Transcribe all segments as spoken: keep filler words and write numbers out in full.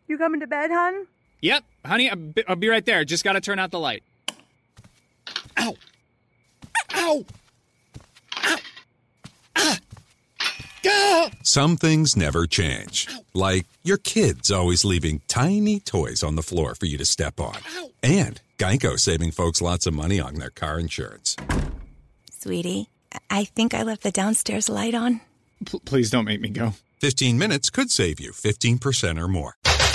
You coming to bed, hon? Yep, honey, I'll be, I'll be right there. Just gotta turn out the light. Ow! Ow! Ow! Ah! Ah! Some things never change. Like your kids always leaving tiny toys on the floor for you to step on. And Geico saving folks lots of money on their car insurance. Sweetie, I think I left the downstairs light on. P- please don't make me go. fifteen minutes could save you fifteen percent or more.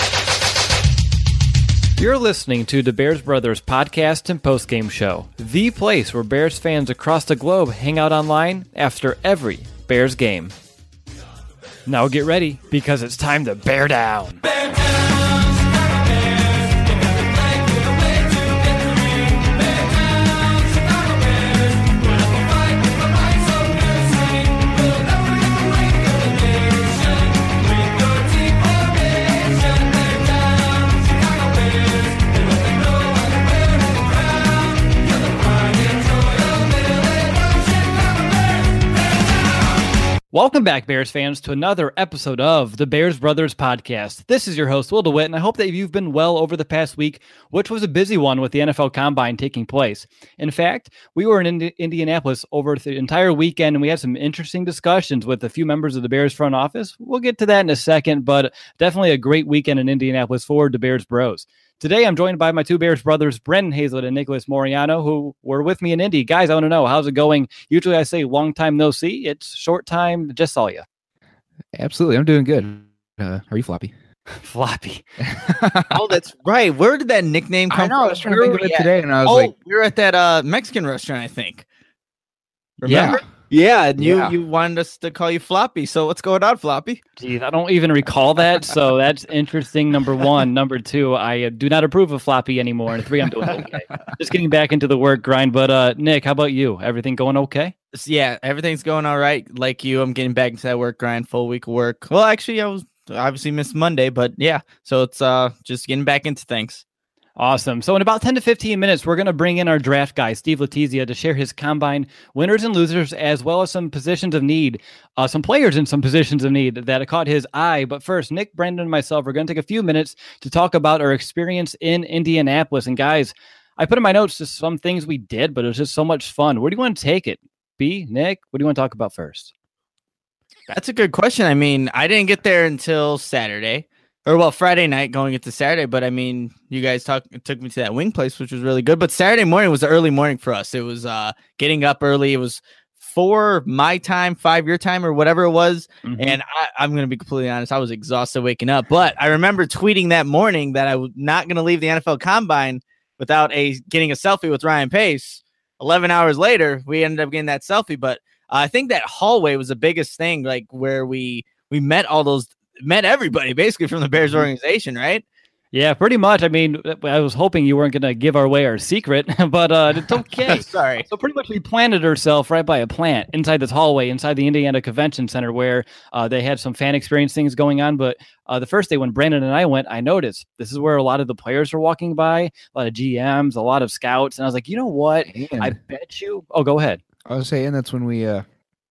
You're listening to the Bears Brothers podcast and postgame show, the place where Bears fans across the globe hang out online after every Bears game. Now get ready, because it's time to bear down. Bear down! Welcome back, Bears fans, to another episode of the Bears Brothers podcast. This is your host, Will DeWitt, and I hope that you've been well over the past week, which was a busy one with the N F L Combine taking place. In fact, we were in Indi- Indianapolis over the entire weekend, and we had some interesting discussions with a few members of the Bears front office. We'll get to that in a second, but definitely a great weekend in Indianapolis for the Bears Bros. Today, I'm joined by my two Bears brothers, Brendan Hazlett and Nicholas Moriano, who were with me in Indy. Guys, I want to know, how's it going? Usually I say long time no see. It's short time, just saw you. Absolutely. I'm doing good. Uh, are you Floppy? Floppy. Oh, that's right. Where did that nickname come I know, from? I was trying to think of it today, and I was oh, like... we were at that uh, Mexican restaurant, I think. Remember? Yeah. Yeah, and you, Yeah. you wanted us to call you Floppy. So what's going on, Floppy? Geez, I don't even recall that, so that's interesting, number one. Number two, I uh, do not approve of Floppy anymore. And three, I'm doing okay. Just getting back into the work grind. But uh, Nick, how about you? Everything going okay? Yeah, everything's going all right. Like you, I'm getting back into that work grind, full week of work. Well, actually, I was obviously missed Monday, but yeah. So it's uh just getting back into things. Awesome. So in about ten to fifteen minutes, we're going to bring in our draft guy, Steve Letizia, to share his combine winners and losers, as well as some positions of need, uh, some players in some positions of need that caught his eye. But first, Nick, Brendan, and myself are going to take a few minutes to talk about our experience in Indianapolis. And guys, I put in my notes just some things we did, but it was just so much fun. Where do you want to take it? B, Nick, what do you want to talk about first? That's a good question. I mean, I didn't get there until Saturday. Or, well, Friday night going into Saturday. But, I mean, you guys talk, took me to that wing place, which was really good. But Saturday morning was the early morning for us. It was uh, getting up early. It was four my time, five your time, or whatever it was. Mm-hmm. And I, I'm going to be completely honest. I was exhausted waking up. But I remember tweeting that morning that I was not going to leave the N F L Combine without a getting a selfie with Ryan Pace. eleven hours later, we ended up getting that selfie. But uh, I think that hallway was the biggest thing, like where we we met all those met everybody basically from the Bears organization, right? Yeah, pretty much. I mean, I was hoping you weren't going to give our away our secret, but uh, it's okay. Sorry. So pretty much we planted ourselves right by a plant inside this hallway, inside the Indiana Convention Center, where uh, they had some fan experience things going on. But uh, the first day when Brandon and I went, I noticed this is where a lot of the players were walking by, a lot of G Ms, a lot of scouts. And I was like, you know what? And I bet you. Oh, go ahead. I was saying that's when we uh,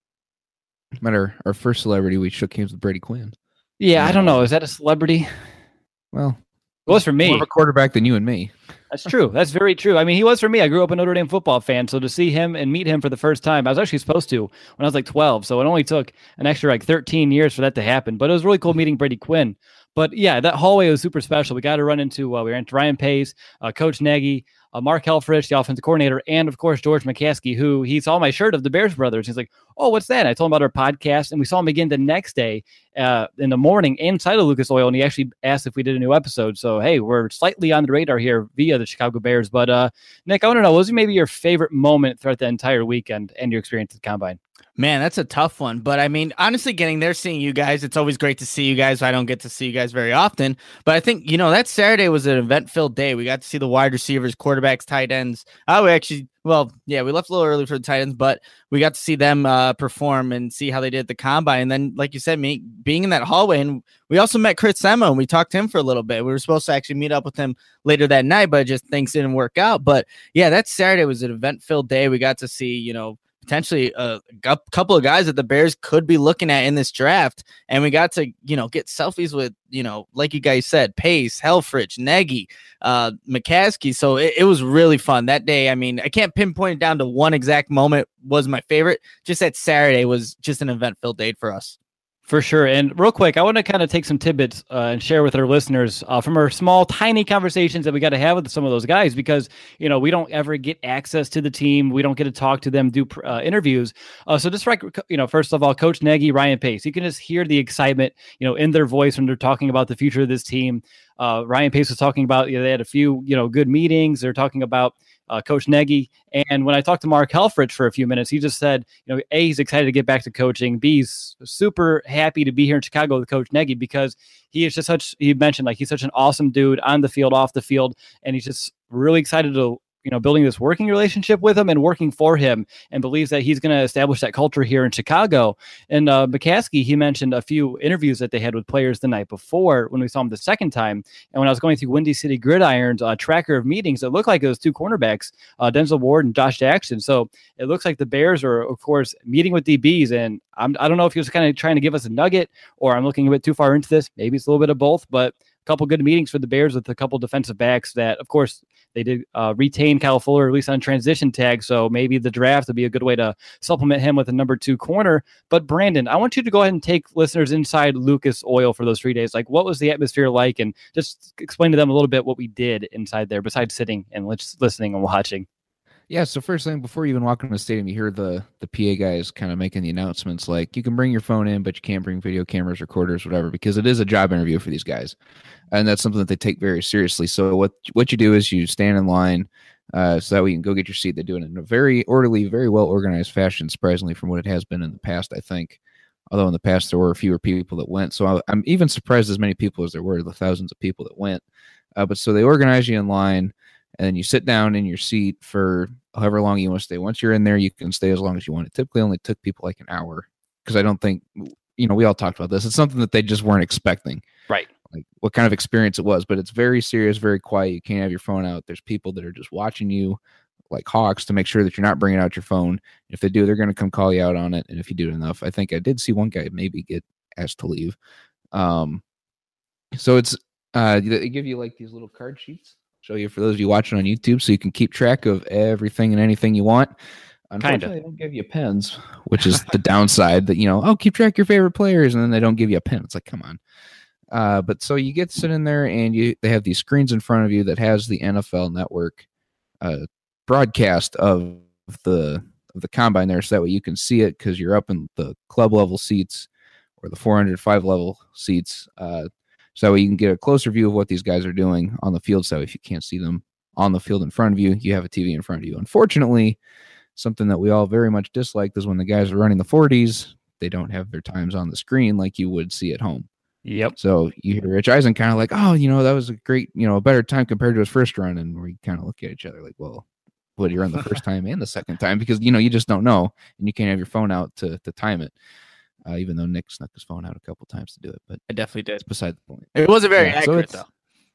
met our, our first celebrity. We shook hands with Brady Quinn. Yeah, I don't know. Is that a celebrity? Well, it was for me. More of a quarterback than you and me. That's true. That's very true. I mean, he was for me. I grew up a Notre Dame football fan, so to see him and meet him for the first time, I was actually supposed to when I was like twelve, so it only took an extra like thirteen years for that to happen. But it was really cool meeting Brady Quinn. But yeah, that hallway was super special. We got to run into, uh, we ran into Ryan Pace, uh, Coach Nagy, uh, Mark Helfrich, the offensive coordinator, and of course, George McCaskey, who he saw my shirt of the Bears Brothers. He's like, oh, what's that? And I told him about our podcast, and we saw him again the next day uh, in the morning inside of Lucas Oil, and he actually asked if we did a new episode. So, hey, we're slightly on the radar here via the Chicago Bears. But uh, Nick, I want to know, what was maybe your favorite moment throughout the entire weekend and your experience at the Combine? Man, that's a tough one. But I mean, honestly, getting there, seeing you guys, it's always great to see you guys. I don't get to see you guys very often. But I think, you know, that Saturday was an event-filled day. We got to see the wide receivers, quarterbacks, tight ends. Oh, we actually, well, yeah, we left a little early for the tight ends, but we got to see them uh, perform and see how they did at the Combine. And then, like you said, me being in that hallway, and we also met Chris Semo, and we talked to him for a little bit. We were supposed to actually meet up with him later that night, but just things didn't work out. But yeah, that Saturday was an event-filled day. We got to see, you know, potentially a, a couple of guys that the Bears could be looking at in this draft. And we got to, you know, get selfies with, you know, like you guys said, Pace, Helfrich, Nagy, uh, McCaskey. So it, it was really fun that day. I mean, I can't pinpoint it down to one exact moment was my favorite. Just that Saturday was just an event filled day for us. For sure. And real quick, I want to kind of take some tidbits uh, and share with our listeners uh, from our small, tiny conversations that we got to have with some of those guys, because, you know, we don't ever get access to the team. We don't get to talk to them, do uh, interviews. Uh, so just, you know, first of all, Coach Nagy, Ryan Pace, you can just hear the excitement, you know, in their voice when they're talking about the future of this team. Uh, Ryan Pace was talking about, you know, they had a few, you know, good meetings. They're talking about Uh, Coach Nagy. And when I talked to Mark Helfrich for a few minutes, he just said, you know, A, he's excited to get back to coaching. B, he's super happy to be here in Chicago with Coach Nagy, because he is just such, he mentioned like he's such an awesome dude on the field, off the field. And he's just really excited to, you know, building this working relationship with him and working for him, and believes that he's going to establish that culture here in Chicago. And uh, McCaskey, he mentioned a few interviews that they had with players the night before when we saw him the second time. And when I was going through Windy City Gridiron's uh, tracker of meetings, it looked like it was two cornerbacks, uh, Denzel Ward and Josh Jackson. So it looks like the Bears are, of course, meeting with D Bs. And I'm, I don't know if he was kind of trying to give us a nugget, or I'm looking a bit too far into this. Maybe it's a little bit of both, but a couple good meetings for the Bears with a couple defensive backs that, of course, they did uh, retain Kyle Fuller, at least on transition tag. So maybe the draft would be a good way to supplement him with a number two corner. But Brandon, I want you to go ahead and take listeners inside Lucas Oil for those three days. Like, what was the atmosphere like? And just explain to them a little bit what we did inside there besides sitting and listening and watching. Yeah, so first thing, before you even walk into the stadium, you hear the the P A guys kind of making the announcements like, you can bring your phone in, but you can't bring video cameras, recorders, whatever, because it is a job interview for these guys. And that's something that they take very seriously. So what what you do is you stand in line uh, so that way you can go get your seat. They do it in a very orderly, very well-organized fashion, surprisingly, from what it has been in the past, I think. Although in the past there were fewer people that went. So I, I'm even surprised as many people as there were, the thousands of people that went. Uh, but so they organize you in line, and then you sit down in your seat for however long you want to stay. Once you're in there, you can stay as long as you want. It typically only took people like an hour, because I don't think, you know, we all talked about this. It's something that they just weren't expecting. Right. Like what kind of experience it was, but it's very serious, very quiet. You can't have your phone out. There's people that are just watching you like hawks to make sure that you're not bringing out your phone. If they do, they're going to come call you out on it. And if you do it enough, I think I did see one guy maybe get asked to leave. Um, so it's, uh, they give you like these little card sheets. Show you for those of you watching on YouTube, so you can keep track of everything and anything you want. Unfortunately, they don't give you pens, which is the downside. That, you know, oh, keep track of your favorite players, and then they don't give you a pen. It's like, come on. Uh, but so you get to sit in there, and you they have these screens in front of you that has the N F L Network uh, broadcast of the of the combine there, so that way you can see it because you're up in the club level seats or the four hundred five level seats. Uh, So you can get a closer view of what these guys are doing on the field. So if you can't see them on the field in front of you, you have a T V in front of you. Unfortunately, something that we all very much disliked is when the guys are running the forties, they don't have their times on the screen like you would see at home. Yep. So you hear Rich Eisen kind of like, oh, you know, that was a great, you know, a better time compared to his first run. And we kind of look at each other like, well, what, you're on the first time and the second time? Because, you know, you just don't know. And you can't have your phone out to, to time it. Uh, even though Nick snuck his phone out a couple times to do it, but I definitely did. It's beside the point. It wasn't very yeah, accurate, so though.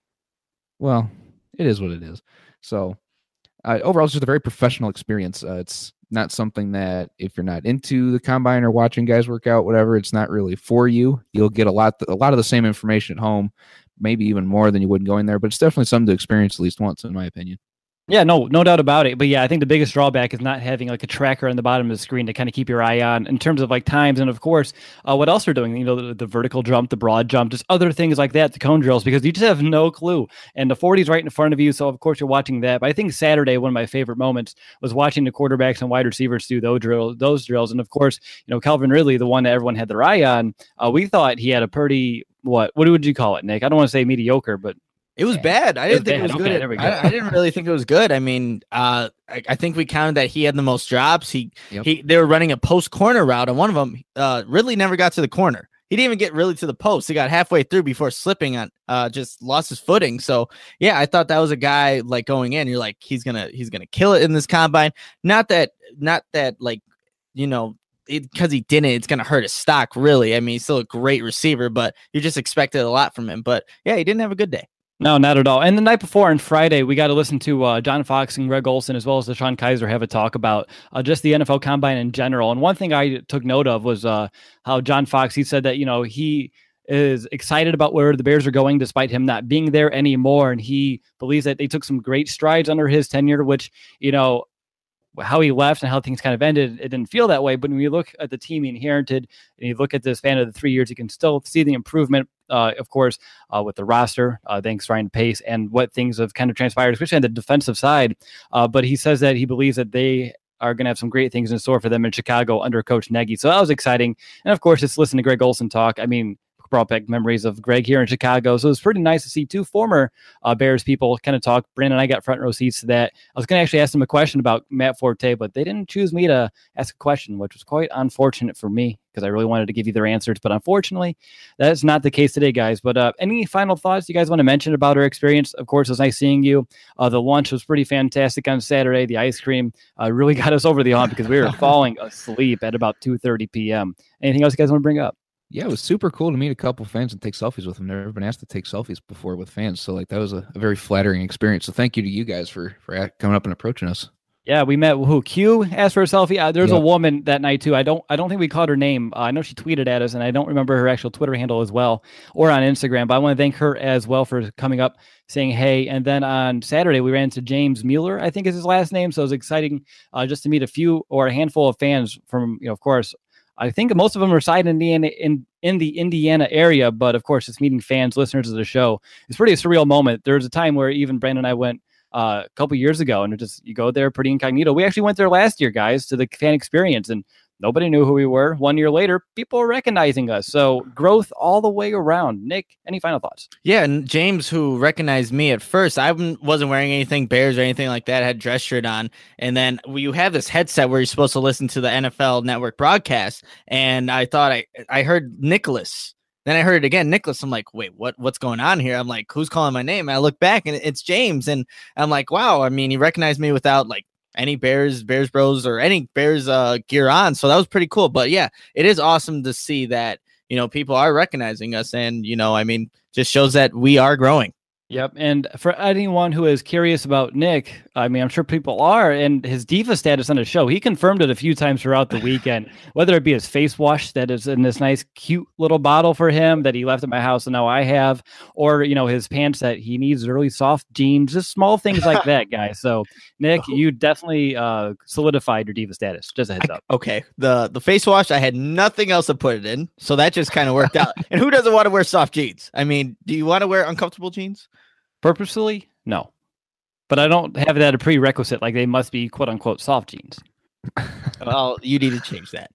Well, it is what it is. So uh, overall, it's just a very professional experience. Uh, it's not something that if you're not into the combine or watching guys work out, whatever, it's not really for you. You'll get a lot, a lot of the same information at home, maybe even more than you would going there. But it's definitely something to experience at least once, in my opinion. Yeah, no, no doubt about it. But yeah, I think the biggest drawback is not having like a tracker on the bottom of the screen to kind of keep your eye on in terms of like times. And of course, uh, what else they're doing, you know, the, the vertical jump, the broad jump, just other things like that, the cone drills, because you just have no clue. And the forty is right in front of you. So of course you're watching that. But I think Saturday, one of my favorite moments was watching the quarterbacks and wide receivers do those, drill, those drills. And of course, you know, Calvin Ridley, the one that everyone had their eye on, uh, we thought he had a pretty, what, what would you call it, Nick? I don't want to say mediocre, but it was bad. I didn't think bad. it was Okay, good. there we go. I, I didn't really think it was good. I mean, uh, I, I think we counted that he had the most drops. He, Yep. he, they were running a post corner route, and one of them, uh, Ridley never got to the corner. He didn't even get really to the post. He got halfway through before slipping on, uh, just lost his footing. So yeah, I thought that was a guy like going in. You're like, he's gonna, he's gonna kill it in this combine. Not that, not that like, you know. Because he didn't, it's going to hurt his stock, really. I mean, he's still a great receiver, but you just expected a lot from him. But yeah, he didn't have a good day. No, not at all. And the night before on Friday, we got to listen to uh, John Fox and Greg Olson, as well as Deshaun Kaiser, have a talk about uh, just the N F L Combine in general. And one thing I took note of was uh, how John Fox, he said that, you know, he is excited about where the Bears are going, despite him not being there anymore. And he believes that they took some great strides under his tenure, which, you know, how he left and how things kind of ended, it didn't feel that way. But when you look at the team he inherited and you look at the span of the three years, you can still see the improvement, uh, of course, uh, with the roster, uh, thanks Ryan Pace, and what things have kind of transpired, especially on the defensive side. Uh, but he says that he believes that they are going to have some great things in store for them in Chicago under Coach Nagy. So that was exciting. And of course, just listen to Greg Olson talk. I mean, brought back memories of Greg here in Chicago. So it was pretty nice to see two former uh, Bears people kind of talk. Brandon and I got front row seats to that. I was going to actually ask them a question about Matt Forte, but they didn't choose me to ask a question, which was quite unfortunate for me because I really wanted to give you their answers. But unfortunately, that's not the case today, guys. But uh, any final thoughts you guys want to mention about our experience? Of course, it was nice seeing you. Uh, the lunch was pretty fantastic on Saturday. The ice cream uh, really got us over the hump because we were falling asleep at about two thirty p.m. Anything else you guys want to bring up? Yeah, it was super cool to meet a couple fans and take selfies with them. Never been asked to take selfies before with fans, so like that was a, a very flattering experience. So thank you to you guys for for coming up and approaching us. Yeah, we met who Q asked for a selfie. Uh, There's yep. a woman that night too. I don't I don't think we called her name. Uh, I know she tweeted at us, and I don't remember her actual Twitter handle as well, or on Instagram. But I want to thank her as well for coming up, saying hey. And then on Saturday we ran into James Mueller, I think is his last name. So it was exciting uh, just to meet a few or a handful of fans from, you know, of course. I think most of them reside in the in in the Indiana area, but of course, it's meeting fans, listeners of the show. It's pretty a surreal moment. There was a time where even Brandon and I went uh, a couple years ago, and it just you go there pretty incognito. We actually went there last year, guys, to the fan experience, and nobody knew who we were. One year later, people are recognizing us. So growth all the way around. Nick, any final thoughts? Yeah, and James, who recognized me at first, I wasn't wearing anything Bears or anything like that. I had a dress shirt on. And then you have this headset where you're supposed to listen to the N F L Network broadcast. And I thought I, I heard Nicholas. Then I heard it again, Nicholas. I'm like, wait, what? What's going on here? I'm like, who's calling my name? And I look back and it's James. And I'm like, wow. I mean, he recognized me without like any Bears, Bears Bros, or any Bears uh, gear on. So that was pretty cool. But yeah, it is awesome to see that, you know, people are recognizing us. And, you know, I mean, just shows that we are growing. Yep. And for anyone who is curious about Nick, I mean, I'm sure people are, and his diva status on the show, he confirmed it a few times throughout the weekend, whether it be his face wash that is in this nice, cute little bottle for him that he left at my house and now I have, or, you know, his pants that he needs really soft jeans, just small things like that, guys. So, Nick, you definitely uh, solidified your diva status. Just a heads up. I, okay. The, the face wash, I had nothing else to put it in. So that just kind of worked out. And who doesn't want to wear soft jeans? I mean, do you want to wear uncomfortable jeans? Purposely? No. But I don't have that a prerequisite, like they must be quote unquote soft jeans. Well, you need to change that.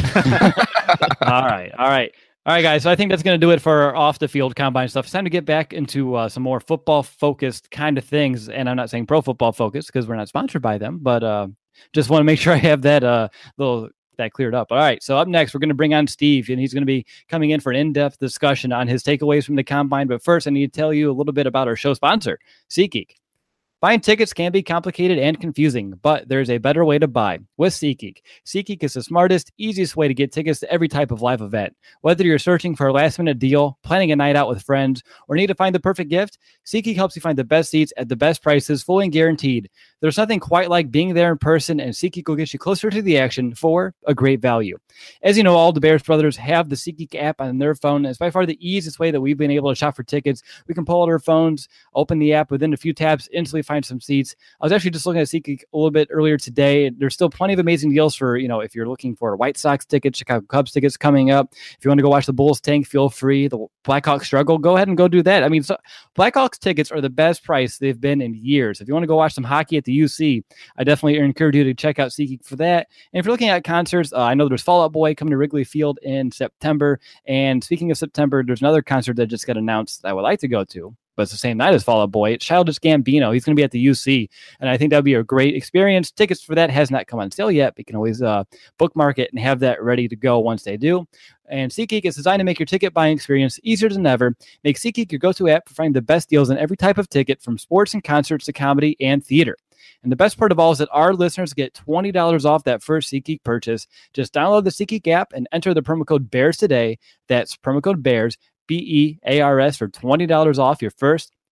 all right. All right. All right, guys. So I think that's going to do it for our off the field combine stuff. It's time to get back into uh, some more football focused kind of things. And I'm not saying pro football focused because we're not sponsored by them, but uh, just want to make sure I have that uh, little that cleared up. All right. So up next, we're going to bring on Steve, and he's going to be coming in for an in-depth discussion on his takeaways from the combine. But first, I need to tell you a little bit about our show sponsor, SeatGeek. Buying tickets can be complicated and confusing, but there's a better way to buy with SeatGeek. SeatGeek is the smartest, easiest way to get tickets to every type of live event. Whether you're searching for a last-minute deal, planning a night out with friends, or need to find the perfect gift, SeatGeek helps you find the best seats at the best prices, fully guaranteed. There's nothing quite like being there in person, and SeatGeek will get you closer to the action for a great value. As you know, all the Bears brothers have the SeatGeek app on their phone. It's by far the easiest way that we've been able to shop for tickets. We can pull out our phones, open the app within a few taps, instantly find some seats. I was actually just looking at SeatGeek a little bit earlier today. There's still plenty of amazing deals for, you know, if you're looking for White Sox tickets, Chicago Cubs tickets coming up. If you want to go watch the Bulls tank, feel free. The Blackhawks struggle, go ahead and go do that. I mean, so Blackhawks tickets are the best price they've been in years. If you want to go watch some hockey at the U C, I definitely encourage you to check out SeatGeek for that. And if you're looking at concerts, uh, I know there's Fall Out Boy coming to Wrigley Field in September. And speaking of September, there's another concert that just got announced that I would like to go to, but it's the same night as Fall Out Boy. It's Childish Gambino. He's going to be at the U C, and I think that would be a great experience. Tickets for that has not come on sale yet, but you can always uh, bookmark it and have that ready to go once they do. And SeatGeek is designed to make your ticket buying experience easier than ever. Make SeatGeek your go-to app for finding the best deals on every type of ticket, from sports and concerts to comedy and theater. And the best part of all is that our listeners get twenty dollars off that first SeatGeek purchase. Just download the SeatGeek app and enter the promo code BEARS today. That's promo code BEARS, B E A R S, for twenty dollars off your first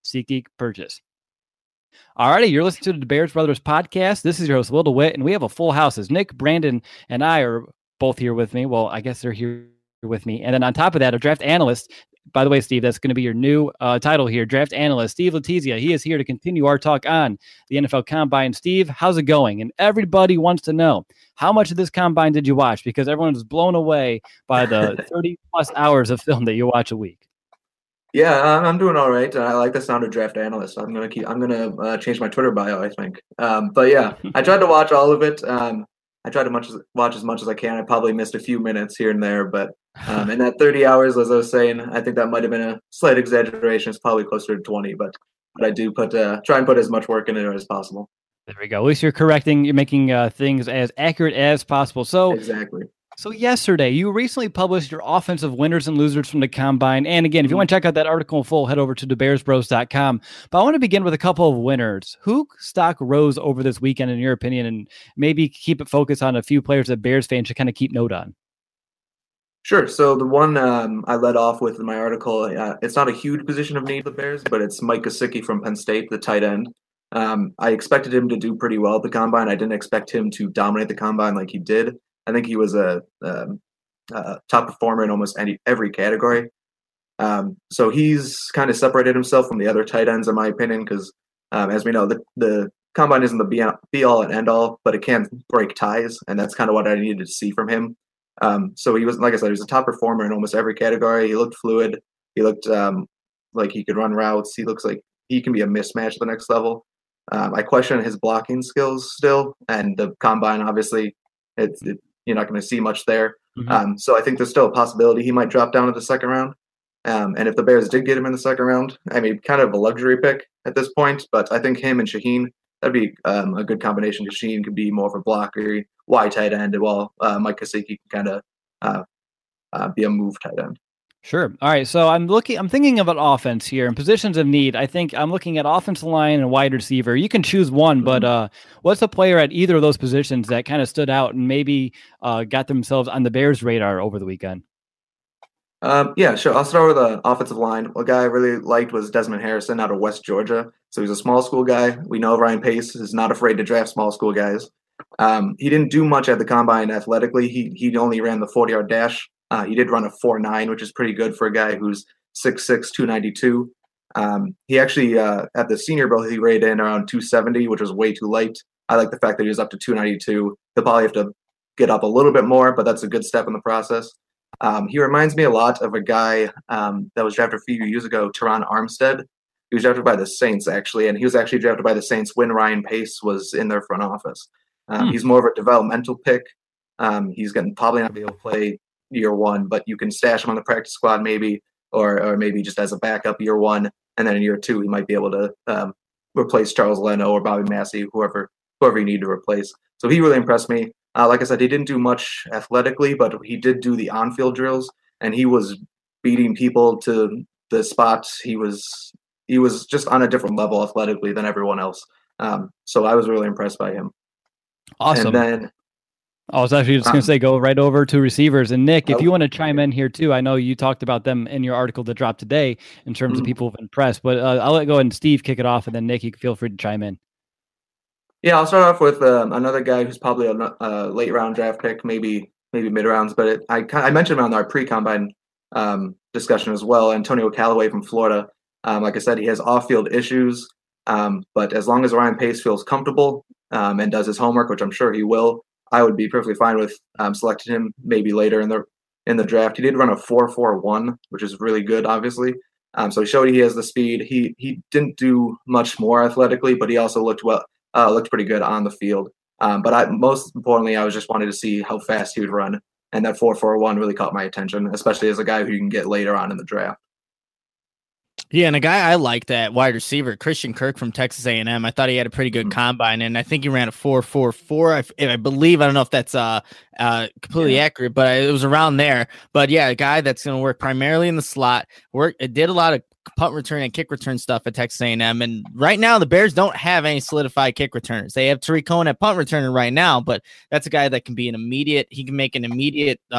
SeatGeek purchase. Alrighty, you're listening to the Bears Brothers podcast. This is your host, Will DeWitt, and we have a full house as Nick, Brandon, and I are both here with me. Well, I guess they're here with me. And then on top of that, a draft analyst. By the way, Steve, that's going to be your new uh, title here, draft analyst, Steve Letizia. He is here to continue our talk on the N F L Combine. Steve, how's it going? And everybody wants to know, how much of this Combine did you watch? Because everyone is blown away by the thirty plus hours of film that you watch a week. Yeah, I'm I'm doing all right. I like the sound of draft analyst. I'm gonna keep. I'm gonna uh, change my Twitter bio, I think. Um, but yeah, I tried to watch all of it. Um, I tried to much as, watch as much as I can. I probably missed a few minutes here and there, but um, in that thirty hours, as I was saying, I think that might have been a slight exaggeration. It's probably closer to twenty, but but I do put uh, try and put as much work in it as possible. There we go. At least you're correcting. You're making uh, things as accurate as possible. So exactly. So yesterday, you recently published your offensive winners and losers from the Combine. And again, if you want to check out that article in full, head over to the bears bros dot com. But I want to begin with a couple of winners. Who stock rose over this weekend, in your opinion, and maybe keep it focused on a few players that Bears fans should kind of keep note on? Sure. So the one um, I led off with in my article, uh, it's not a huge position of need for the Bears, but it's Mike Gesicki from Penn State, the tight end. Um, I expected him to do pretty well at the Combine. I didn't expect him to dominate the Combine like he did. I think he was a, um, a top performer in almost any every category. Um, so he's kind of separated himself from the other tight ends, in my opinion, because um, as we know, the, the Combine isn't the be, be all and end all, but it can break ties, and that's kind of what I needed to see from him. Um, so he was, like I said, he was a top performer in almost every category. He looked fluid. He looked um, like he could run routes. He looks like he can be a mismatch at the next level. Um, I question his blocking skills still, and the Combine, obviously, it's it, you're not going to see much there. Mm-hmm. Um, so I think there's still a possibility he might drop down to the second round. Um, and if the Bears did get him in the second round, I mean, kind of a luxury pick at this point, but I think him and Shaheen, that'd be um, a good combination, because Shaheen could be more of a blocker, wide tight end, while uh, Mike Gesicki can kind of uh, uh, be a move tight end. Sure. All right. So I'm looking, I'm thinking of an offense here and positions of need. I think I'm looking at offensive line and wide receiver. You can choose one, mm-hmm. but uh, what's a player at either of those positions that kind of stood out and maybe uh, got themselves on the Bears' radar over the weekend? Um, yeah, sure. I'll start with the offensive line. A guy I really liked was Desmond Harrison out of West Georgia. So he's a small school guy. We know Ryan Pace is not afraid to draft small school guys. Um, he didn't do much at the Combine athletically. He he only ran the forty-yard dash. Uh, he did run a four nine, which is pretty good for a guy who's six six, two ninety-two. Um, he actually, uh, at the Senior Bowl, he rated in around two seventy, which was way too light. I like the fact that he was up to two ninety-two. He'll probably have to get up a little bit more, but that's a good step in the process. Um, he reminds me a lot of a guy um, that was drafted a few years ago, Teron Armstead. He was drafted by the Saints, actually, and he was actually drafted by the Saints when Ryan Pace was in their front office. Um, hmm. He's more of a developmental pick. Um, he's going to probably not be able to play year one, but you can stash him on the practice squad maybe, or or maybe just as a backup year one, and then in year two he might be able to um, replace Charles Leno or Bobby Massey, whoever whoever you need to replace. So he really impressed me. Uh, like I said, he didn't do much athletically, but he did do the on-field drills, and he was beating people to the spots. He was he was just on a different level athletically than everyone else. Um, so I was really impressed by him. Awesome. And then I was actually just going to say, go right over to receivers. And Nick, if oh, you want to chime in here too, I know you talked about them in your article that dropped today in terms mm-hmm. of people who've been impressed, but uh, I'll let go ahead and Steve kick it off, and then Nick, you can feel free to chime in. Yeah, I'll start off with um, another guy who's probably a uh, late round draft pick, maybe maybe mid rounds, but it, I I mentioned him on our pre-combine um, discussion as well. Antonio Callaway from Florida. Um, like I said, he has off-field issues, um, but as long as Ryan Pace feels comfortable um, and does his homework, which I'm sure he will, I would be perfectly fine with um, selecting him maybe later in the in the draft. He did run a four four one, which is really good, obviously. Um, so he showed he has the speed. He he didn't do much more athletically, but he also looked well. Uh, looked pretty good on the field. Um, but I, most importantly, I was just wanted to see how fast he would run. And that four four one really caught my attention, especially as a guy who you can get later on in the draft. Yeah, and a guy I like that wide receiver, Christian Kirk from Texas A and M. I thought he had a pretty good mm-hmm. combine, and I think he ran a four four four. I, I believe, I don't know if that's uh, uh, completely yeah. accurate, but it was around there. But yeah, a guy that's going to work primarily in the slot. Work. It did a lot of punt return and kick return stuff at Texas A and M, and right now the Bears don't have any solidified kick returners. They have Tariq Cohen at punt returner right now, but that's a guy that can be an immediate. He can make an immediate uh,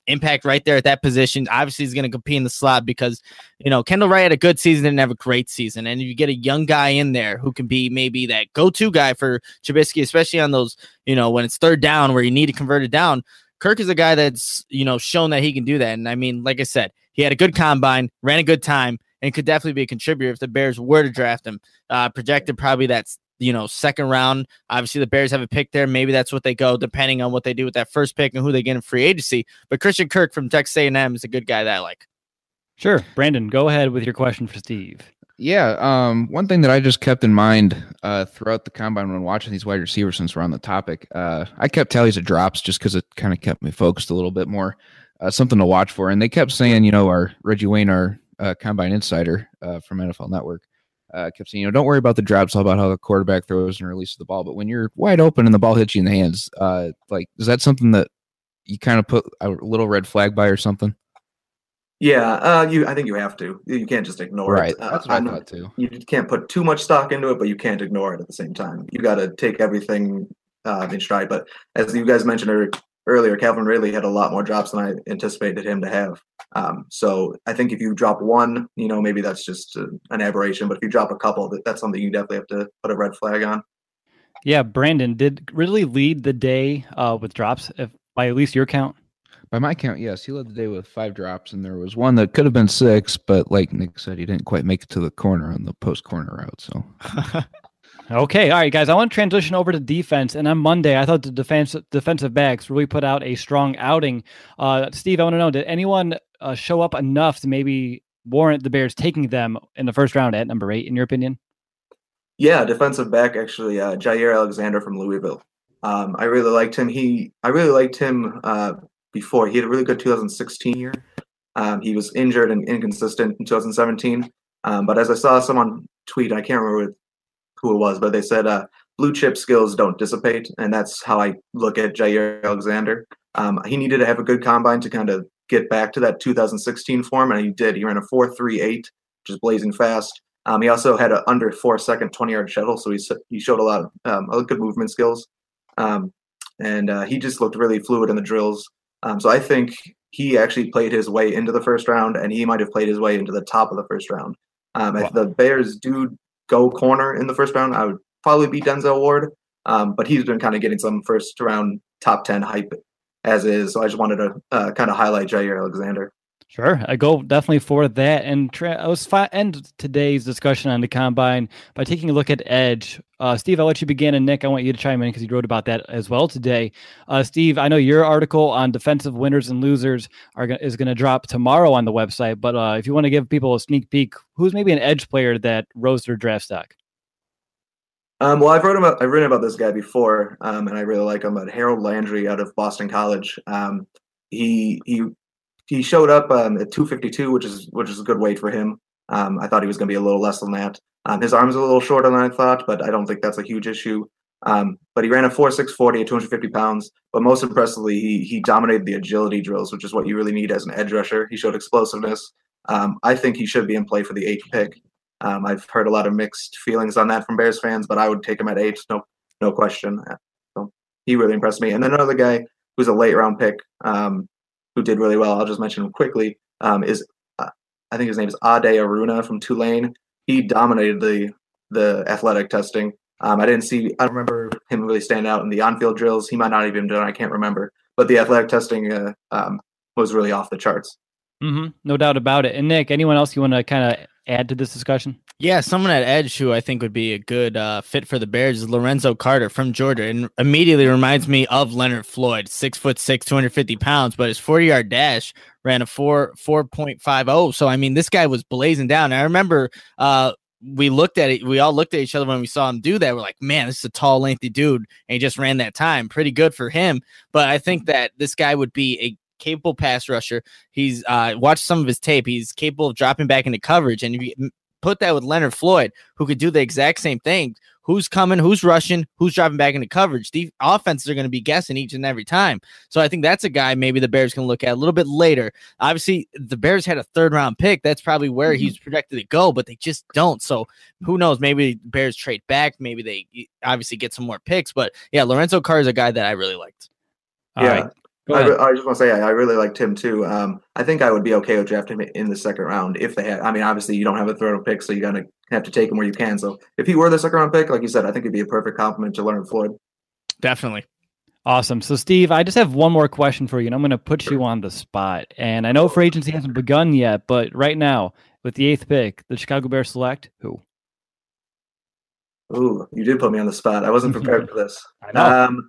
impact right there at that position. Obviously, he's going to compete in the slot because, you know, Kendall Wright had a good season, didn't have a great season. And if you get a young guy in there who can be maybe that go-to guy for Trubisky, especially on those, you know, when it's third down where you need to convert it down, Kirk is a guy that's, you know, shown that he can do that. And I mean, like I said, he had a good combine, ran a good time, and could definitely be a contributor if the Bears were to draft him. Uh, projected probably that's, you know, second round. Obviously, the Bears have a pick there. Maybe that's what they go, depending on what they do with that first pick and who they get in free agency. But Christian Kirk from Texas A and M is a good guy that I like. Sure. Brandon, go ahead with your question for Steve. Yeah, um, one thing that I just kept in mind uh, throughout the combine when watching these wide receivers, since we're on the topic, uh, I kept tallies of drops just because it kind of kept me focused a little bit more, uh, something to watch for. And they kept saying, you know, our Reggie Wayne, our uh, combine insider uh, from N F L Network, uh, kept saying, you know, don't worry about the drops, all about how the quarterback throws and releases the ball. But when you're wide open and the ball hits you in the hands, uh, like, is that something that you kind of put a little red flag by or something? Yeah, uh, you. I think you have to. You can't just ignore right. it. Right, that's uh, what I I'm, thought too. You can't put too much stock into it, but you can't ignore it at the same time. You got to take everything uh, in stride. But as you guys mentioned earlier, Calvin Ridley had a lot more drops than I anticipated him to have. Um, so I think if you drop one, you know, maybe that's just uh, an aberration. But if you drop a couple, that's something you definitely have to put a red flag on. Yeah, Brandon, did Ridley lead the day uh, with drops, if by at least your count? By my count, yes. He led the day with five drops, and there was one that could have been six, but like Nick said, he didn't quite make it to the corner on the post-corner route. So, okay, all right, guys. I want to transition over to defense, and on Monday, I thought the defense defensive backs really put out a strong outing. Uh, Steve, I want to know, did anyone uh, show up enough to maybe warrant the Bears taking them in the first round at number eight, in your opinion? Yeah, defensive back, actually, uh, Jair Alexander from Louisville. Um, I really liked him. He, I really liked him uh, before. He had a really good two thousand sixteen year. Um, he was injured and inconsistent in two thousand seventeen. Um, but as I saw someone tweet, I can't remember who it was, but they said uh, blue chip skills don't dissipate. And that's how I look at Jair Alexander. Um, he needed to have a good combine to kind of get back to that two thousand sixteen form. And he did. He ran a four three eight, which is blazing fast. Um, he also had an under four second twenty yard shuttle. So he, he showed a lot of um, good movement skills. Um, and uh, he just looked really fluid in the drills. Um, so I think he actually played his way into the first round, and he might have played his way into the top of the first round. Um, wow. If the Bears do go corner in the first round, I would probably be Denzel Ward. Um, but he's been kind of getting some first round top ten hype as is. So I just wanted to uh, kind of highlight Jair Alexander. Sure, I go definitely for that. And tra- I was fi- end today's discussion on the combine by taking a look at edge. Uh, Steve, I'll let you begin, and Nick, I want you to chime in because you wrote about that as well today. Uh, Steve, I know your article on defensive winners and losers are go- is going to drop tomorrow on the website. But uh, if you want to give people a sneak peek, who's maybe an edge player that rose their draft stock? Um, well, I've wrote about I've written about this guy before, um, and I really like him. But Harold Landry out of Boston College, um, he he. He showed up um, at two fifty-two, which is which is a good weight for him. Um, I thought he was going to be a little less than that. Um, his arms are a little shorter than I thought, but I don't think that's a huge issue. Um, but he ran a four six forty at two hundred fifty pounds. But most impressively, he he dominated the agility drills, which is what you really need as an edge rusher. He showed explosiveness. Um, I think he should be in play for the eighth pick. Um, I've heard a lot of mixed feelings on that from Bears fans, but I would take him at eight, no no question. So he really impressed me. And then another guy who's a late round pick. Um, who did really well, I'll just mention him quickly, um, is uh, I think his name is Ade Aruna from Tulane. He dominated the the athletic testing. Um, I didn't see, I don't remember him really stand out in the on-field drills. He might not even done, I can't remember. But the athletic testing uh, um, was really off the charts. Mm-hmm. No doubt about it. And Nick, anyone else you want to kind of add to this discussion? Yeah, someone at edge who I think would be a good uh, fit for the Bears is Lorenzo Carter from Georgia, and immediately reminds me of Leonard Floyd, six foot six, two hundred fifty pounds, but his forty yard dash ran a four four point five oh. So I mean, this guy was blazing down. And I remember uh, we looked at it, we all looked at each other when we saw him do that. We're like, man, this is a tall, lengthy dude, and he just ran that time. Pretty good for him. But I think that this guy would be a capable pass rusher. He's uh, watched some of his tape. He's capable of dropping back into coverage, and if you put that with Leonard Floyd, who could do the exact same thing. Who's coming, who's rushing, who's dropping back into coverage. The offenses are going to be guessing each and every time. So I think that's a guy maybe the Bears can look at a little bit later. Obviously, the Bears had a third round pick. That's probably where mm-hmm. he's projected to go, but they just don't. So who knows? Maybe the Bears trade back. Maybe they obviously get some more picks. But yeah, Lorenzo Carr is a guy that I really liked. Yeah. Right. Go I, ahead. re- I just want to say I, I really liked him too. Um, I think I would be okay with drafting him in the second round if they had. I mean, obviously you don't have a third round pick, so you gotta have to take him where you can. So if he were the second round pick, like you said, I think it'd be a perfect compliment to Leonard Floyd. Definitely. Awesome. So, Steve, I just have one more question for you, and I'm going to put you on the spot. And I know free agency hasn't begun yet, but right now, with the eighth pick, the Chicago Bears select who? Ooh, you did put me on the spot. I wasn't prepared for this. I know. Um,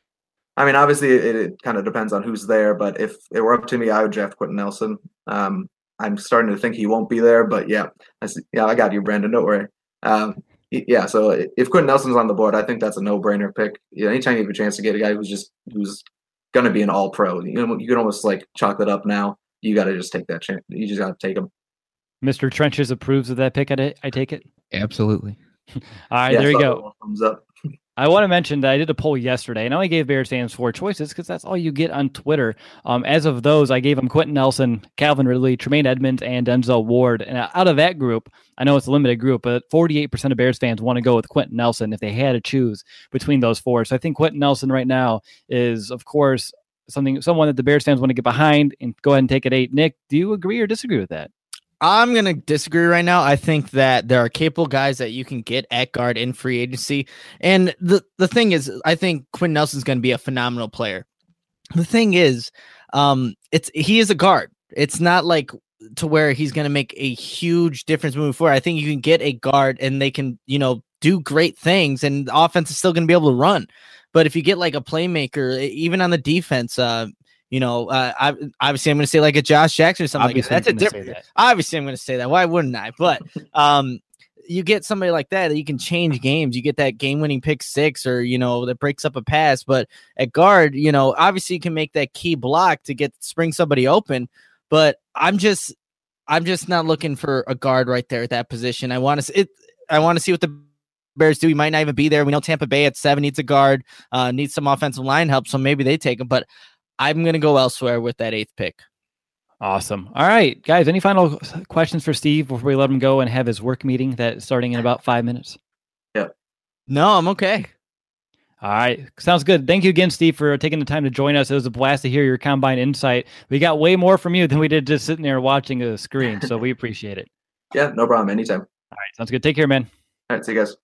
I mean, obviously, it, it kind of depends on who's there, but if it were up to me, I would draft Quentin Nelson. Um, I'm starting to think he won't be there, but yeah, I see, yeah, I got you, Brandon. Don't worry. Um, y- yeah, so if Quentin Nelson's on the board, I think that's a no-brainer pick. Yeah, anytime you have a chance to get a guy who's just who's gonna be an All-Pro, you know, you can almost like chalk that up now. You got to just take that chance. You just got to take him. Mister Trenches approves of that pick. I, I take it. Absolutely. All right, Yeah, there you so go. Thumbs up. I want to mention that I did a poll yesterday, and I only gave Bears fans four choices because that's all you get on Twitter. Um, as of those, I gave them Quentin Nelson, Calvin Ridley, Tremaine Edmonds, and Denzel Ward. And out of that group, I know it's a limited group, but forty-eight percent of Bears fans want to go with Quentin Nelson if they had to choose between those four. So I think Quentin Nelson right now is, of course, something someone that the Bears fans want to get behind and go ahead and take at eight. Nick, do you agree or disagree with that? I'm going to disagree right now. I think that there are capable guys that you can get at guard in free agency. And the, the thing is, I think Quinn Nelson's going to be a phenomenal player. The thing is, um, it's he is a guard. It's not like to where he's going to make a huge difference moving forward. I think you can get a guard and they can, you know, do great things and the offense is still going to be able to run. But if you get like a playmaker, even on the defense, uh, You know, uh, I, obviously, I'm going to say like a Josh Jackson or something Obviously like that. That's a I'm gonna different. say that. Obviously, I'm going to say that. Why wouldn't I? But um, you get somebody like that that you can change games. You get that game-winning pick six, or you know that breaks up a pass. But at guard, you know, obviously you can make that key block to get spring somebody open. But I'm just, I'm just not looking for a guard right there at that position. I want to it. I want to see what the Bears do. He might not even be there. We know Tampa Bay at seven needs a guard, uh, needs some offensive line help, so maybe they take him. But I'm going to go elsewhere with that eighth pick. Awesome. All right, guys, any final questions for Steve before we let him go and have his work meeting that's starting in about five minutes? Yeah. No, I'm okay. All right. Sounds good. Thank you again, Steve, for taking the time to join us. It was a blast to hear your combine insight. We got way more from you than we did just sitting there watching a screen, so we appreciate it. Yeah, no problem. Anytime. All right. Sounds good. Take care, man. All right, see you guys.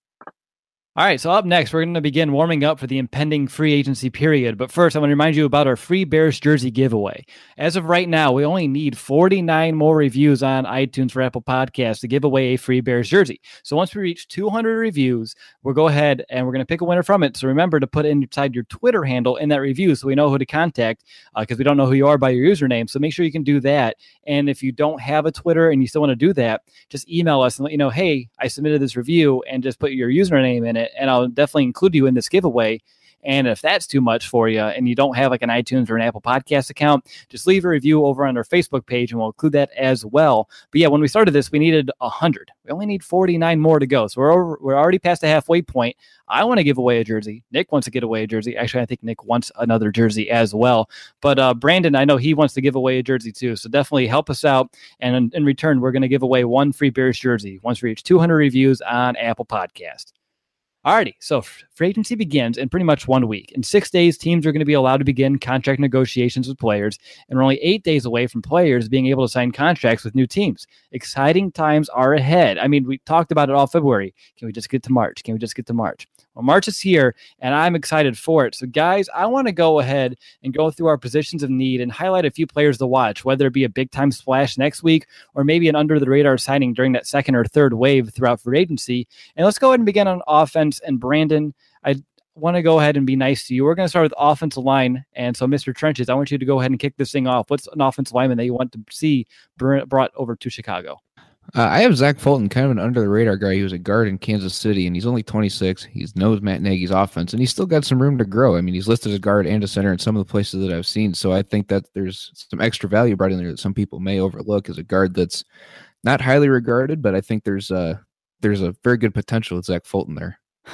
All right, so up next, we're going to begin warming up for the impending free agency period. But first, I want to remind you about our free Bears jersey giveaway. As of right now, we only need forty-nine more reviews on iTunes for Apple Podcasts to give away a free Bears jersey. So once we reach two hundred reviews, we'll go ahead and we're going to pick a winner from it. So remember to put inside your Twitter handle in that review so we know who to contact because uh, we don't know who you are by your username. So make sure you can do that. And if you don't have a Twitter and you still want to do that, just email us and let you know, hey, I submitted this review and just put your username in it. And I'll definitely include you in this giveaway. And if that's too much for you and you don't have like an iTunes or an Apple Podcast account, just leave a review over on our Facebook page and we'll include that as well. But yeah, when we started this, we needed one hundred. We only need forty-nine more to go. So we're over, we're already past the halfway point. I want to give away a jersey. Nick wants to give away a jersey. Actually, I think Nick wants another jersey as well. But uh, Brandon, I know he wants to give away a jersey too. So definitely help us out. And in, in return, we're going to give away one free Bears jersey once we reach two hundred reviews on Apple Podcast. Alrighty, so free agency begins in pretty much one week. In six days, teams are going to be allowed to begin contract negotiations with players, and we're only eight days away from players being able to sign contracts with new teams. Exciting times are ahead. I mean, we talked about it all February. Can we just get to March? Can we just get to March? Well, March is here, and I'm excited for it. So, guys, I want to go ahead and go through our positions of need and highlight a few players to watch, whether it be a big-time splash next week or maybe an under-the-radar signing during that second or third wave throughout free agency. And let's go ahead and begin on offense. And Brandon, I want to go ahead and be nice to you. We're going to start with offensive line. And so, Mister Trenches, I want you to go ahead and kick this thing off. What's an offensive lineman that you want to see brought over to Chicago? Uh, I have Zach Fulton, kind of an under-the-radar guy. He was a guard in Kansas City, and he's only twenty-six. He knows Matt Nagy's offense, and he's still got some room to grow. I mean, he's listed as a guard and a center in some of the places that I've seen, so I think that there's some extra value brought in there that some people may overlook as a guard that's not highly regarded, but I think there's uh, there's a very good potential with Zach Fulton there.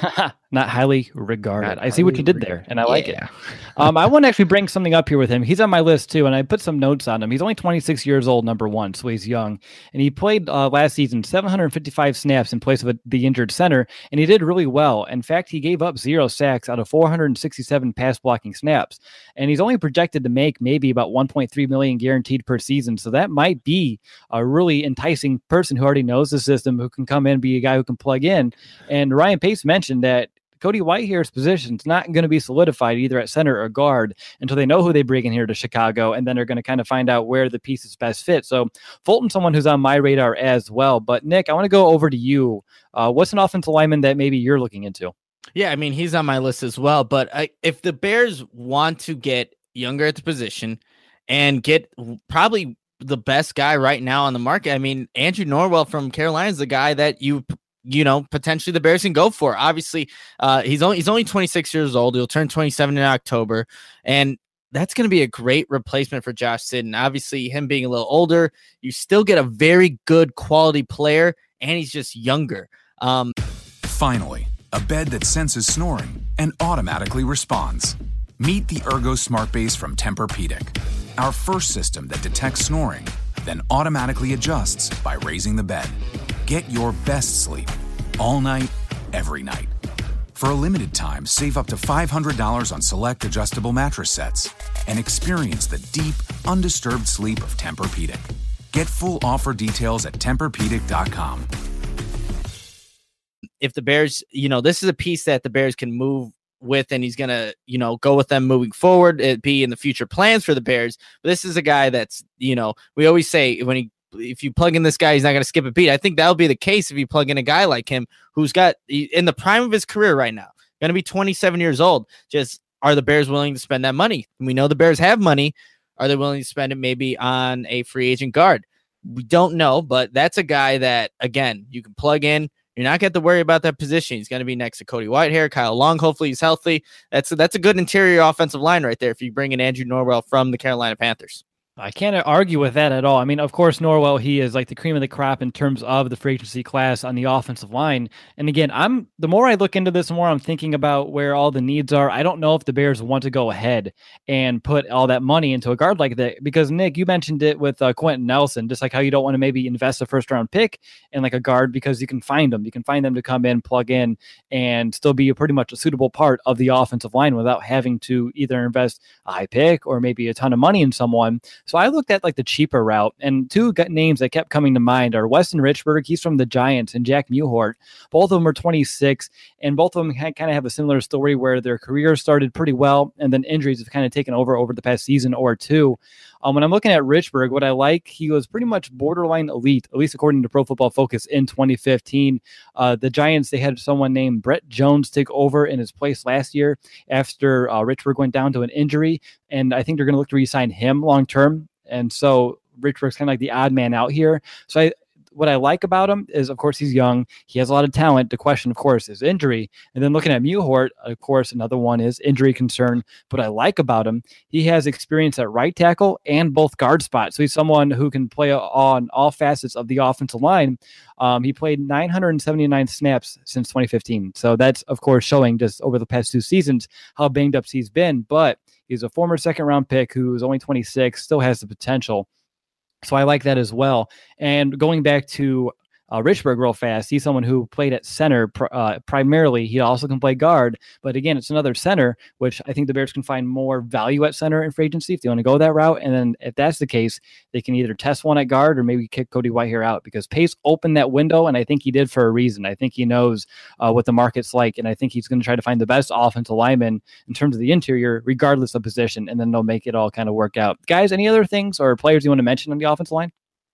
not highly regarded. Not I see what you highly did there, regarded. and I like it. Yeah. Um, I want to actually bring something up here with him. He's on my list too, and I put some notes on him. He's only twenty-six years old, number one, so he's young. And he played uh, last season seven hundred fifty-five snaps in place of a, the injured center, and he did really well. In fact, he gave up zero sacks out of four hundred sixty-seven pass blocking snaps, and he's only projected to make maybe about one point three million guaranteed per season. So that might be a really enticing person who already knows the system, who can come in, be a guy who can plug in. And Ryan Pace mentioned that Cody Whitehair's position is not going to be solidified either at center or guard until they know who they bring in here to Chicago, and then they're going to kind of find out where the pieces best fit. So Fulton's someone who's on my radar as well. But Nick, I want to go over to you. Uh, what's an offensive lineman that maybe you're looking into? Yeah, I mean, he's on my list as well. But I, if the Bears want to get younger at the position and get probably the best guy right now on the market, I mean, Andrew Norwell from Carolina is the guy that you you know, potentially the Bears can go for. Obviously, uh, he's only he's only twenty-six years old. He'll turn twenty-seven in October, and that's going to be a great replacement for Josh Sidden. Obviously, him being a little older, you still get a very good quality player, and he's just younger. Um, Finally, a bed that senses snoring and automatically responds. Meet the Ergo Smart Base from Tempur-Pedic, our first system that detects snoring, then automatically adjusts by raising the bed. Get your best sleep all night, every night. For a limited time, save up to five hundred dollars on select adjustable mattress sets and experience the deep, undisturbed sleep of Tempur-Pedic. Get full offer details at Tempur Pedic dot com. If the Bears, you know, this is a piece that the Bears can move with, and he's going to, you know, go with them moving forward. It'd be in the future plans for the Bears. But this is a guy that's, you know, we always say when he, if you plug in this guy, he's not going to skip a beat. I think that'll be the case if you plug in a guy like him who's got in the prime of his career right now, going to be twenty-seven years old. Just, are the Bears willing to spend that money? We know the Bears have money. Are they willing to spend it maybe on a free agent guard? We don't know, but that's a guy that, again, you can plug in. You're not going to have to worry about that position. He's going to be next to Cody Whitehair, Kyle Long. Hopefully he's healthy. That's a, that's a good interior offensive line right there if you bring in Andrew Norwell from the Carolina Panthers. I can't argue with that at all. I mean, of course, Norwell, he is like the cream of the crop in terms of the free agency class on the offensive line. And again, I'm the more I look into this, the more I'm thinking about where all the needs are. I don't know if the Bears want to go ahead and put all that money into a guard like that, because Nick, you mentioned it with uh, Quentin Nelson, just like how you don't want to maybe invest a first round pick in like a guard because you can find them. You can find them to come in, plug in, and still be a pretty much a suitable part of the offensive line without having to either invest a high pick or maybe a ton of money in someone. So I looked at like the cheaper route, and two names that kept coming to mind are Weston Richburg, he's from the Giants, and Jack Mewhort. Both of them are twenty-six, and both of them kind of have a similar story where their careers started pretty well, and then injuries have kind of taken over over the past season or two. Um, when I'm looking at Richburg, what I like, he was pretty much borderline elite, at least according to Pro Football Focus in twenty fifteen. Uh, the Giants, they had someone named Brett Jones take over in his place last year after uh, Richburg went down to an injury, and I think they're going to look to re-sign him long-term. And so Richburg's kind of like the odd man out here. So I, what I like about him is, of course, he's young. He has a lot of talent. The question, of course, is injury. And then looking at Mewhort, of course, another one is injury concern. What I like about him, he has experience at right tackle and both guard spots. So he's someone who can play on all facets of the offensive line. Um, he played nine hundred seventy-nine snaps since twenty fifteen. So that's, of course, showing just over the past two seasons how banged up he's been. But he's a former second round pick who's only twenty-six, still has the potential. So I like that as well. And going back to uh, Richburg real fast, he's someone who played at center pr- uh, primarily. He also can play guard, but again, it's another center, which I think the Bears can find more value at center in free agency if they want to go that route. And then if that's the case, they can either test one at guard or maybe kick Cody Whitehair out, because Pace opened that window, and I think he did for a reason. I think he knows uh, what the market's like, and I think he's going to try to find the best offensive lineman in terms of the interior, regardless of position, and then they'll make it all kind of work out. Guys, any other things or players you want to mention on the offensive line?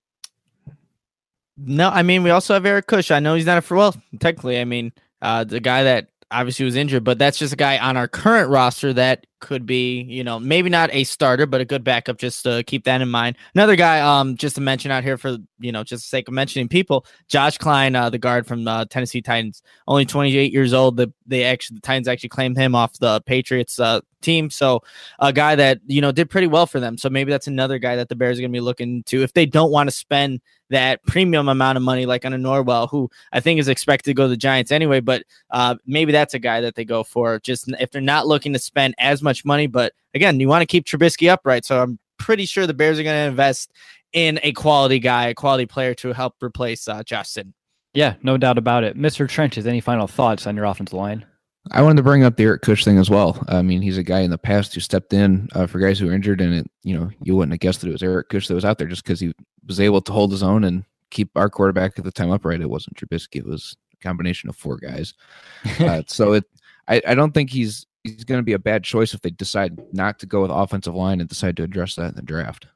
No, I mean, we also have Eric Kush. I know he's not a for well, technically. I mean, uh, the guy that obviously was injured, but that's just a guy on our current roster that could be, you know, maybe not a starter, but a good backup. Just to keep that in mind. Another guy, um, just to mention out here for, you know, just the sake of mentioning people, Josh Klein, uh, the guard from uh, Tennessee Titans, only twenty-eight years old. The they actually the Titans actually claimed him off the Patriots uh, team. So a guy that, you know, did pretty well for them. So maybe that's another guy that the Bears are going to be looking to if they don't want to spend that premium amount of money like on a Norwell, who I think is expected to go to the Giants anyway. But uh, maybe that's a guy that they go for just if they're not looking to spend as much money. But again, you want to keep Trubisky upright. So I'm pretty sure the Bears are going to invest in a quality guy, a quality player to help replace uh, Josh Sitton. Yeah, no doubt about it. Mister Trenches, any final thoughts on your offensive line? I wanted to bring up the Eric Kush thing as well. I mean, he's a guy in the past who stepped in uh, for guys who were injured, and it, you know, you wouldn't have guessed that it was Eric Kush that was out there just because he was able to hold his own and keep our quarterback at the time upright. It wasn't Trubisky; it was a combination of four guys. Uh, so it, I, I don't think he's he's going to be a bad choice if they decide not to go with offensive line and decide to address that in the draft.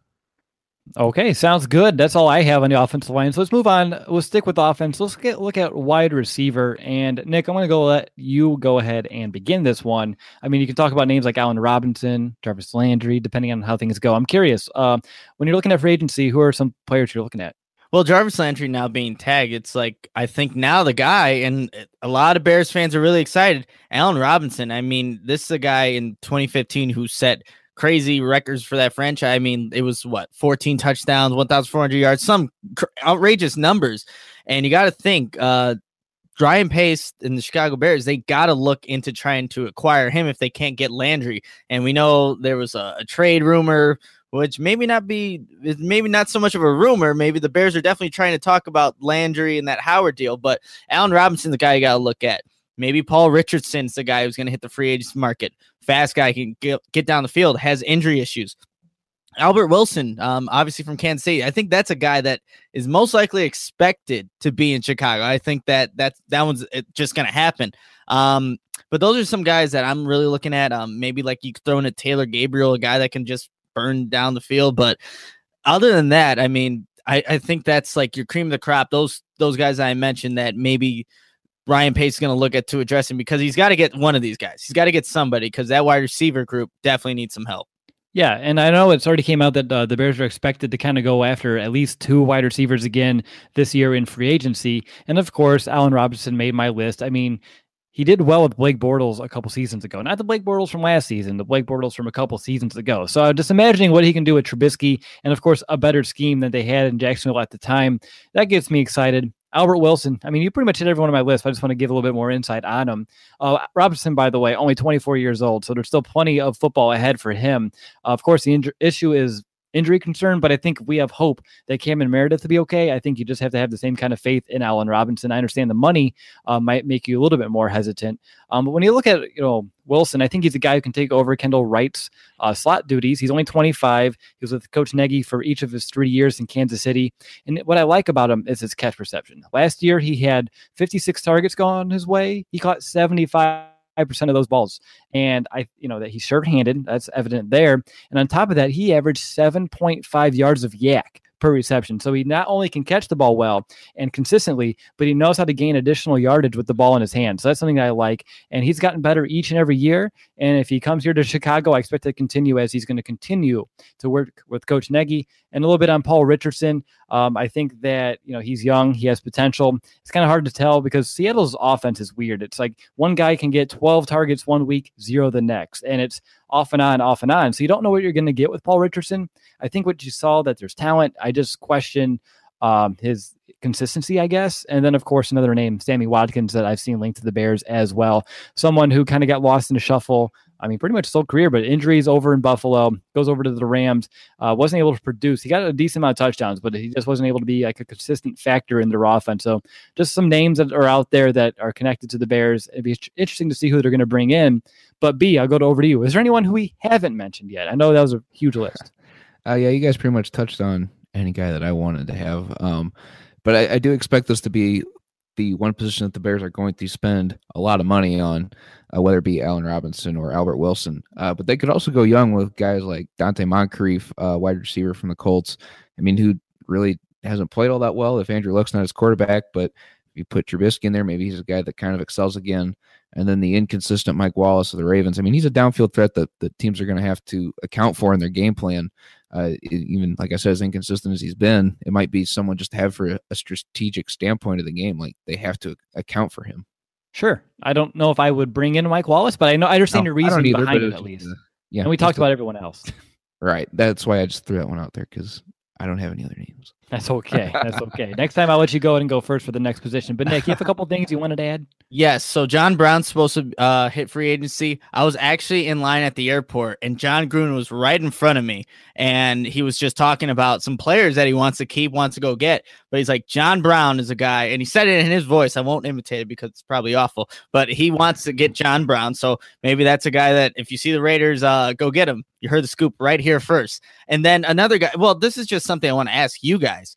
Okay, sounds good. That's all I have on the offensive line. So let's move on. We'll stick with offense. Let's get look at wide receiver. And Nick, I'm going to go let you go ahead and begin this one. I mean, you can talk about names like Allen Robinson, Jarvis Landry, depending on how things go. I'm curious, uh, when you're looking at free agency, who are some players you're looking at? Well, Jarvis Landry now being tagged, it's like, I think now the guy, and a lot of Bears fans are really excited, Allen Robinson. I mean, this is a guy in twenty fifteen who set crazy records for that franchise. I mean, it was what, fourteen touchdowns, one thousand four hundred yards, some cr- outrageous numbers. And you got to think, uh, Ryan Pace and the Chicago Bears, they got to look into trying to acquire him if they can't get Landry. And we know there was a, a trade rumor, which maybe not be, maybe not so much of a rumor. Maybe the Bears are definitely trying to talk about Landry and that Howard deal, but Allen Robinson's the guy you got to look at. Maybe Paul Richardson's the guy who's going to hit the free agents market. Fast guy, can get, get down the field, has injury issues. Albert Wilson, um, obviously from Kansas City. I think that's a guy that is most likely expected to be in Chicago. I think that that's, that one's just going to happen. Um, but those are some guys that I'm really looking at. Um, maybe like you could throw in a Taylor Gabriel, a guy that can just burn down the field. But other than that, I mean, I, I think that's like your cream of the crop. Those those guys I mentioned that maybe Ryan Pace is going to look at to address him because he's got to get one of these guys. He's got to get somebody because that wide receiver group definitely needs some help. Yeah, and I know it's already came out that uh, the Bears are expected to kind of go after at least two wide receivers again this year in free agency. And of course, Allen Robinson made my list. I mean, he did well with Blake Bortles a couple seasons ago. Not the Blake Bortles from last season, the Blake Bortles from a couple seasons ago. So I'm just imagining what he can do with Trubisky and, of course, a better scheme than they had in Jacksonville at the time. That gets me excited. Albert Wilson, I mean, you pretty much hit everyone on my list. I just want to give a little bit more insight on him. Uh, Robinson, by the way, only twenty-four years old, so there's still plenty of football ahead for him. Uh, of course, the inj- issue is injury concern, but I think we have hope that Cameron Meredith will be okay. I think you just have to have the same kind of faith in Allen Robinson. I understand the money uh, might make you a little bit more hesitant. Um, but when you look at, you know, Wilson, I think he's a guy who can take over Kendall Wright's uh, slot duties. He's only twenty-five. He was with Coach Nagy for each of his three years in Kansas City. And what I like about him is his catch perception. Last year, he had fifty-six targets gone his way. He caught seventy-five percent of those balls. And I, you know, that he's short-handed. That's evident there. And on top of that, he averaged seven point five yards of yak per reception. So he not only can catch the ball well and consistently, but he knows how to gain additional yardage with the ball in his hand. So that's something that I like. And he's gotten better each and every year. And if he comes here to Chicago, I expect to continue as he's going to continue to work with Coach Nagy. And a little bit on Paul Richardson. Um, I think that, you know, he's young. He has potential. It's kind of hard to tell because Seattle's offense is weird. It's like one guy can get twelve targets one week, zero the next. And it's off and on, off and on. So you don't know what you're going to get with Paul Richardson. I think what you saw that there's talent. I just question um, his consistency, I guess. And then, of course, another name, Sammy Watkins, that I've seen linked to the Bears as well. Someone who kind of got lost in the shuffle. I mean, pretty much his whole career, but injuries over in Buffalo, goes over to the Rams, uh, wasn't able to produce. He got a decent amount of touchdowns, but he just wasn't able to be like a consistent factor in their offense. So just some names that are out there that are connected to the Bears. It'd be interesting to see who they're going to bring in. But B, I'll go to over to you. Is there anyone who we haven't mentioned yet? I know that was a huge list. Uh, yeah, you guys pretty much touched on any guy that I wanted to have. Um, but I, I do expect this to be the one position that the Bears are going to spend a lot of money on, uh, whether it be Allen Robinson or Albert Wilson. Uh, but they could also go young with guys like Dante Moncrief, uh, wide receiver from the Colts. I mean, who really hasn't played all that well if Andrew Luck's not his quarterback. But if you put Trubisky in there, maybe he's a guy that kind of excels again. And then the inconsistent Mike Wallace of the Ravens. I mean, he's a downfield threat that the teams are going to have to account for in their game plan. Uh, even like I said, as inconsistent as he's been, it might be someone just to have for a, a strategic standpoint of the game. Like they have to account for him. Sure. I don't know if I would bring in Mike Wallace, but I know I understand no, your reasoning either, behind it at least. Uh, yeah, and we talked a, about everyone else. Right. That's why I just threw that one out there because I don't have any other names. That's okay. That's okay. Next time I'll let you go ahead and go first for the next position. But Nick, you have a couple things you wanted to add? Yes. So John Brown's supposed to uh, hit free agency. I was actually in line at the airport, and John Gruden was right in front of me, and he was just talking about some players that he wants to keep, wants to go get. But he's like, John Brown is a guy, and he said it in his voice. I won't imitate it because it's probably awful, but he wants to get John Brown. So maybe that's a guy that if you see the Raiders, uh, go get him. You heard the scoop right here first. And then another guy. Well, this is just something I want to ask you guys.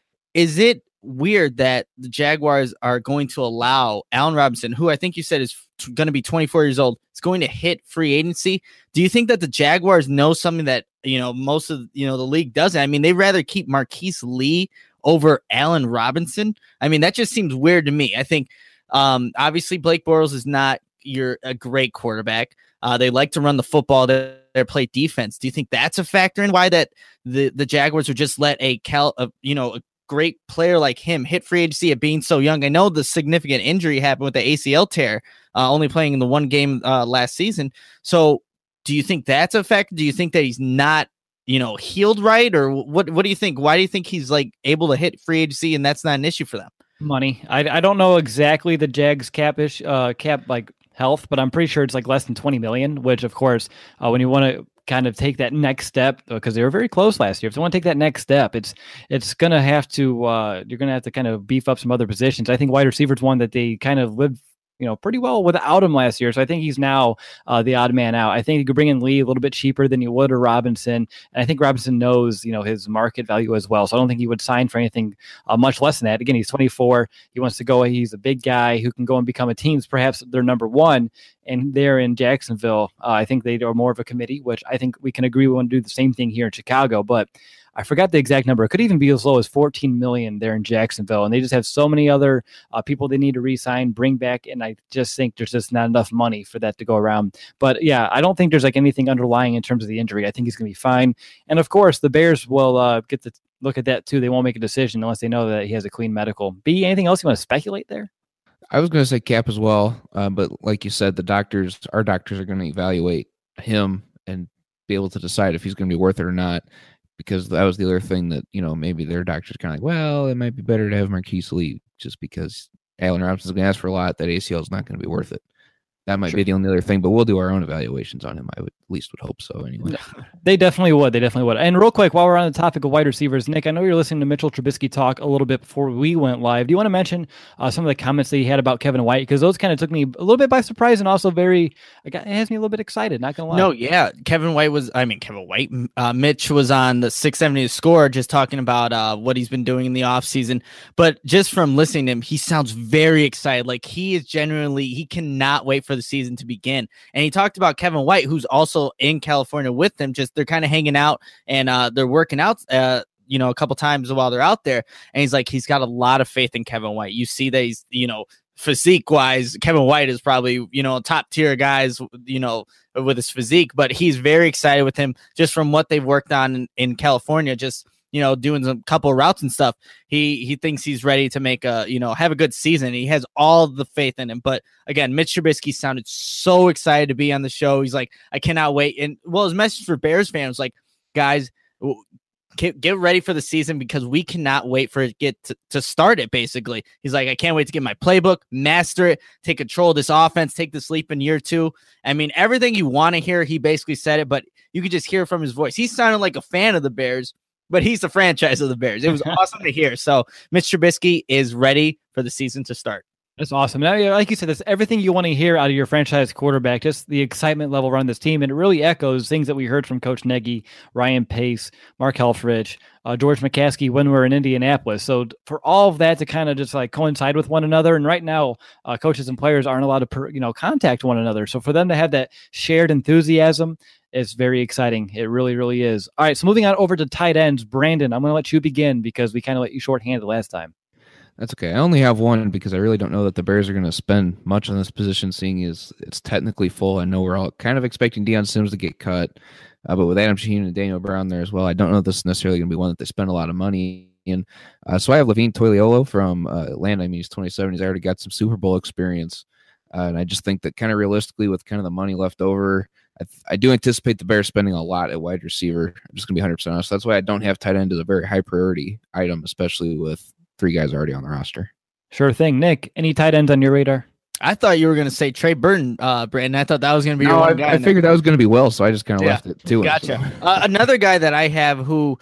Is it weird that the Jaguars are going to allow Allen Robinson, who I think you said is t- going to be twenty-four years old, is going to hit free agency? Do you think that the Jaguars know something that, you know, most of, you know, the league doesn't? I mean, they'd rather keep Marquise Lee over Allen Robinson. I mean, that just seems weird to me. I think um, obviously Blake Bortles is not your a great quarterback. Uh, they like to run the football. They, they play defense. Do you think that's a factor in why that the, the Jaguars would just let a cal, uh, you know, a great player like him hit free agency at being so young? I know the significant injury happened with the A C L tear, uh, only playing in the one game uh, last season. So do you think that's a factor? Do you think that he's not, you know, healed right? Or what, what do you think? Why do you think he's like able to hit free agency and that's not an issue for them? Money. I, I don't know exactly the Jags cap ish, uh, cap like health, but I'm pretty sure it's like less than twenty million, which of course, uh, when you want to kind of take that next step, because they were very close last year. If you want to take that next step, it's it's gonna have to uh, you're gonna have to kind of beef up some other positions. I think wide receiver is one that they kind of lived, you know, pretty well without him last year. So I think he's now uh, the odd man out. I think you could bring in Lee a little bit cheaper than you would or Robinson. And I think Robinson knows, you know, his market value as well. So I don't think he would sign for anything uh, much less than that. Again, he's twenty-four. He wants to go. He's a big guy who can go and become a team's perhaps their number one. And they're in Jacksonville. Uh, I think they are more of a committee, which I think we can agree we want to do the same thing here in Chicago. But I forgot the exact number. It could even be as low as fourteen million there in Jacksonville. And they just have so many other uh, people they need to re-sign, bring back. And I just think there's just not enough money for that to go around. But yeah, I don't think there's like anything underlying in terms of the injury. I think he's going to be fine. And of course, the Bears will uh, get to look at that too. They won't make a decision unless they know that he has a clean medical. B, anything else you want to speculate there? I was going to say cap as well, uh, but like you said, the doctors, our doctors are going to evaluate him and be able to decide if he's going to be worth it or not, because that was the other thing that, you know, maybe their doctors kind of like, well, it might be better to have Marquise Lee just because Allen Robinson's going to ask for a lot. That A C L is not going to be worth it. That might sure. be the only other thing, but we'll do our own evaluations on him. I would at least would hope so anyway. They definitely would. They definitely would. And real quick, while we're on the topic of wide receivers, Nick, I know you're listening to Mitchell Trubisky talk a little bit before we went live. Do you want to mention uh, some of the comments that he had about Kevin White? Because those kind of took me a little bit by surprise and also very, it has me a little bit excited, not going to lie. No, yeah. Kevin White was, I mean, Kevin White, uh, Mitch was on the six seventy Score just talking about uh, what he's been doing in the offseason. But just from listening to him, he sounds very excited. Like he is genuinely, he cannot wait for the season to begin. And he talked about Kevin White, who's also in California with them. Just they're kind of hanging out and uh, they're working out, uh, you know, a couple times while they're out there. And he's like, he's got a lot of faith in Kevin White. You see that he's, you know, physique wise, Kevin White is probably, you know, top tier guys, you know, with his physique, but he's very excited with him just from what they've worked on in, in California. Just, you know, doing some couple of routes and stuff. He he thinks he's ready to make a, you know, have a good season. He has all the faith in him. But again, Mitch Trubisky sounded so excited to be on the show. He's like, I cannot wait. And well, his message for Bears fans, like, guys, get, get ready for the season because we cannot wait for it to get to, to start it. Basically, he's like, I can't wait to get my playbook, master it, take control of this offense, take this leap in year two. I mean, everything you want to hear, he basically said it, but you could just hear from his voice. He sounded like a fan of the Bears, but he's the franchise of the Bears. It was awesome to hear. So Mitch Trubisky is ready for the season to start. That's awesome. Now, like you said, that's everything you want to hear out of your franchise quarterback, just the excitement level around this team. And it really echoes things that we heard from Coach Nagy, Ryan Pace, Mark Helfrich, uh, George McCaskey when we were in Indianapolis. So for all of that to kind of just like coincide with one another. And right now, uh, coaches and players aren't allowed to, per, you know, contact one another. So for them to have that shared enthusiasm, it's very exciting. It really, really is. All right. So moving on over to tight ends, Brandon, I'm going to let you begin because we kind of let you shorthand the last time. That's okay. I only have one because I really don't know that the Bears are going to spend much on this position, seeing as it's technically full. I know we're all kind of expecting Deion Sims to get cut, uh, but with Adam Shaheen and Daniel Brown there as well, I don't know if this is necessarily going to be one that they spend a lot of money in. Uh, so I have Levine Toiliolo from uh, Atlanta. I mean, he's twenty-seven. He's already got some Super Bowl experience. Uh, and I just think that kind of realistically with kind of the money left over, I, th- I do anticipate the Bears spending a lot at wide receiver. I'm just going to be one hundred percent honest. That's why I don't have tight end as a very high priority item, especially with three guys already on the roster. Sure thing. Nick, any tight ends on your radar? I thought you were going to say Trey Burton, uh, Brandon. I thought that was going to be no, your one I, guy. I figured that was going to be Will, so I just kind of Yeah. left it to Gotcha. him. So. Uh, another guy that I have who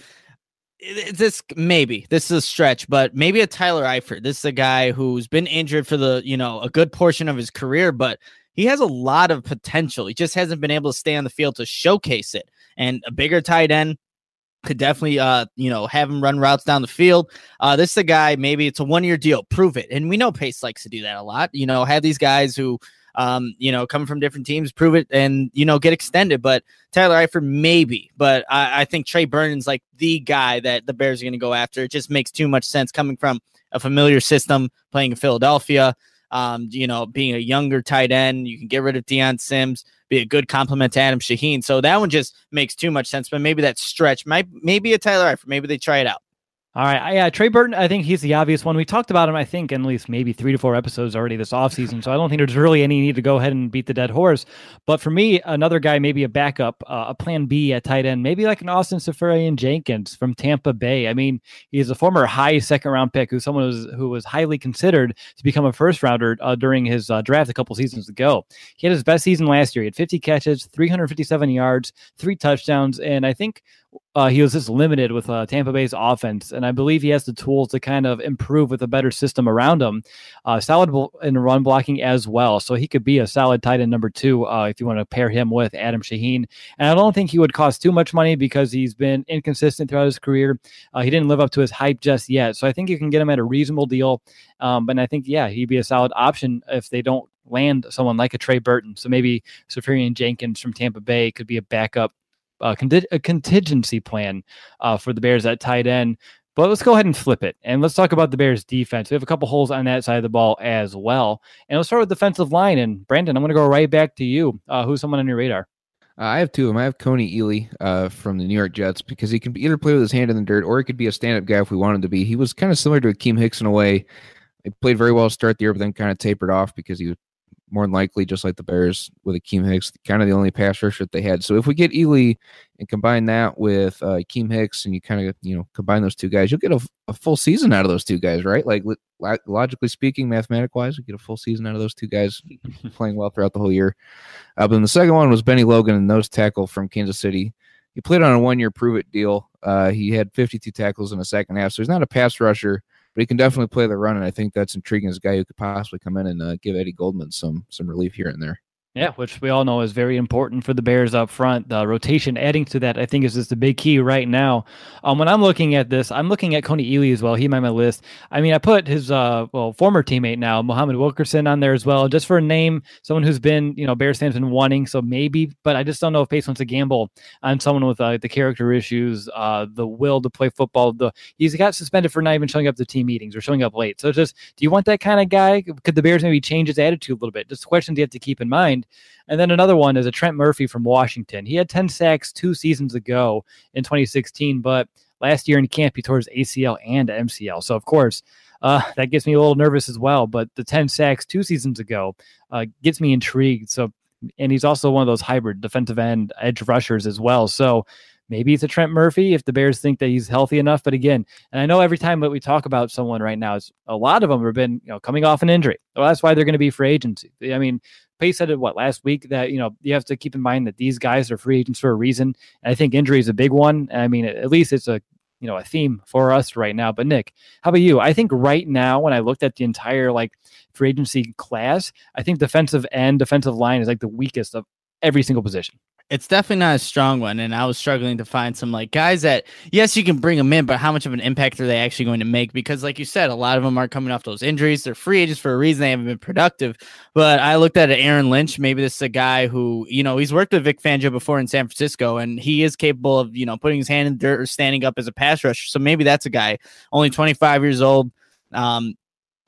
this maybe this is a stretch, but maybe a Tyler Eifert. This is a guy who's been injured for the you know a good portion of his career, but he has a lot of potential. He just hasn't been able to stay on the field to showcase it. And a bigger tight end could definitely, uh, you know, have him run routes down the field. Uh, this is a guy, maybe it's a one-year deal. Prove it. And we know Pace likes to do that a lot. You know, have these guys who, um, you know, come from different teams, prove it, and, you know, get extended. But Tyler Eifert, maybe. But I, I think Trey Burton's like the guy that the Bears are going to go after. It just makes too much sense coming from a familiar system, playing in Philadelphia. Um, you know, being a younger tight end, you can get rid of Deion Sims, be a good compliment to Adam Shaheen. So that one just makes too much sense. But maybe that stretch might maybe a Tyler Eifert. Maybe they try it out. All right. Yeah, Trey Burton, I think he's the obvious one. We talked about him, I think, in at least maybe three to four episodes already this offseason. So I don't think there's really any need to go ahead and beat the dead horse. But for me, another guy, maybe a backup, uh, a plan B at tight end, maybe like an Austin Seferian-Jenkins from Tampa Bay. I mean, he's a former high second round pick who someone was, who was highly considered to become a first rounder uh, during his uh, draft a couple seasons ago. He had his best season last year. He had fifty catches, three hundred fifty-seven yards, three touchdowns. And I think Uh, he was just limited with uh, Tampa Bay's offense, and I believe he has the tools to kind of improve with a better system around him. Uh, solid in run blocking as well, so he could be a solid tight end number two uh, if you want to pair him with Adam Shaheen. And I don't think he would cost too much money because he's been inconsistent throughout his career. Uh, he didn't live up to his hype just yet, so I think you can get him at a reasonable deal. Um, and I think, yeah, he'd be a solid option if they don't land someone like a Trey Burton. So maybe Seferian-Jenkins from Tampa Bay could be a backup. Uh, conti- a contingency plan uh, for the Bears at tight end. But let's go ahead and flip it. And let's talk about the Bears defense. We have a couple holes on that side of the ball as well. And let's start with defensive line. And Brandon, I'm going to go right back to you. Uh, who's someone on your radar? Uh, I have two of them. I have Coney Ealy uh, from the New York Jets because he can either play with his hand in the dirt or he could be a stand-up guy if we want him to be. He was kind of similar to Akeem Hicks in a way. He played very well to start the year, but then kind of tapered off because he was more than likely, just like the Bears with Akeem Hicks, kind of the only pass rusher that they had. So if we get Ealy and combine that with uh, Akeem Hicks and you kind of, you know, combine those two guys, you'll get a, a full season out of those two guys, right? Like lo- logically speaking, mathematic wise, you get a full season out of those two guys playing well throughout the whole year. Uh, but then the second one was Benny Logan, and nose tackle from Kansas City. He played on a one-year prove-it deal. Uh, he had fifty-two tackles in the second half, so he's not a pass rusher, but he can definitely play the run, and I think that's intriguing as a guy who could possibly come in and uh, give Eddie Goldman some some relief here and there. Yeah, which we all know is very important for the Bears up front. The rotation adding to that, I think, is just the big key right now. Um, when I'm looking at this, I'm looking at Coney Ealy as well. He made my list. I mean, I put his uh, well former teammate now, Muhammad Wilkerson, on there as well, just for a name, someone who's been, you know, Bears fans been wanting. So maybe, but I just don't know if Pace wants to gamble on someone with uh, the character issues, uh, the will to play football. The he's got suspended for not even showing up to team meetings or showing up late. So just, do you want that kind of guy? Could the Bears maybe change his attitude a little bit? Just questions you have to keep in mind. And then another one is a Trent Murphy from Washington. He had ten sacks two seasons ago in twenty sixteen, but last year in camp he tore his A C L and M C L. So, of course, uh, that gets me a little nervous as well. But the ten sacks two seasons ago uh, gets me intrigued. So, and he's also one of those hybrid defensive end edge rushers as well. So maybe it's a Trent Murphy if the Bears think that he's healthy enough. But again, and I know every time that we talk about someone right now, it's, a lot of them have been, you know, coming off an injury. Well, that's why they're going to be free agency. I mean, Pace said it, what, last week, that, you know, you have to keep in mind that these guys are free agents for a reason. And I think injury is a big one. And I mean, at least it's a, you know, a theme for us right now. But Nick, how about you? I think right now, when I looked at the entire like free agency class, I think defensive end, defensive line is like the weakest of every single position. It's definitely not a strong one, and I was struggling to find some like guys that, yes, you can bring them in, but how much of an impact are they actually going to make? Because like you said, a lot of them are coming off those injuries. They're free agents for a reason. They haven't been productive. But I looked at Aaron Lynch. Maybe this is a guy who, you know, he's worked with Vic Fangio before in San Francisco, and he is capable of, you know, putting his hand in the dirt or standing up as a pass rusher. So maybe that's a guy, only twenty-five years old. Um,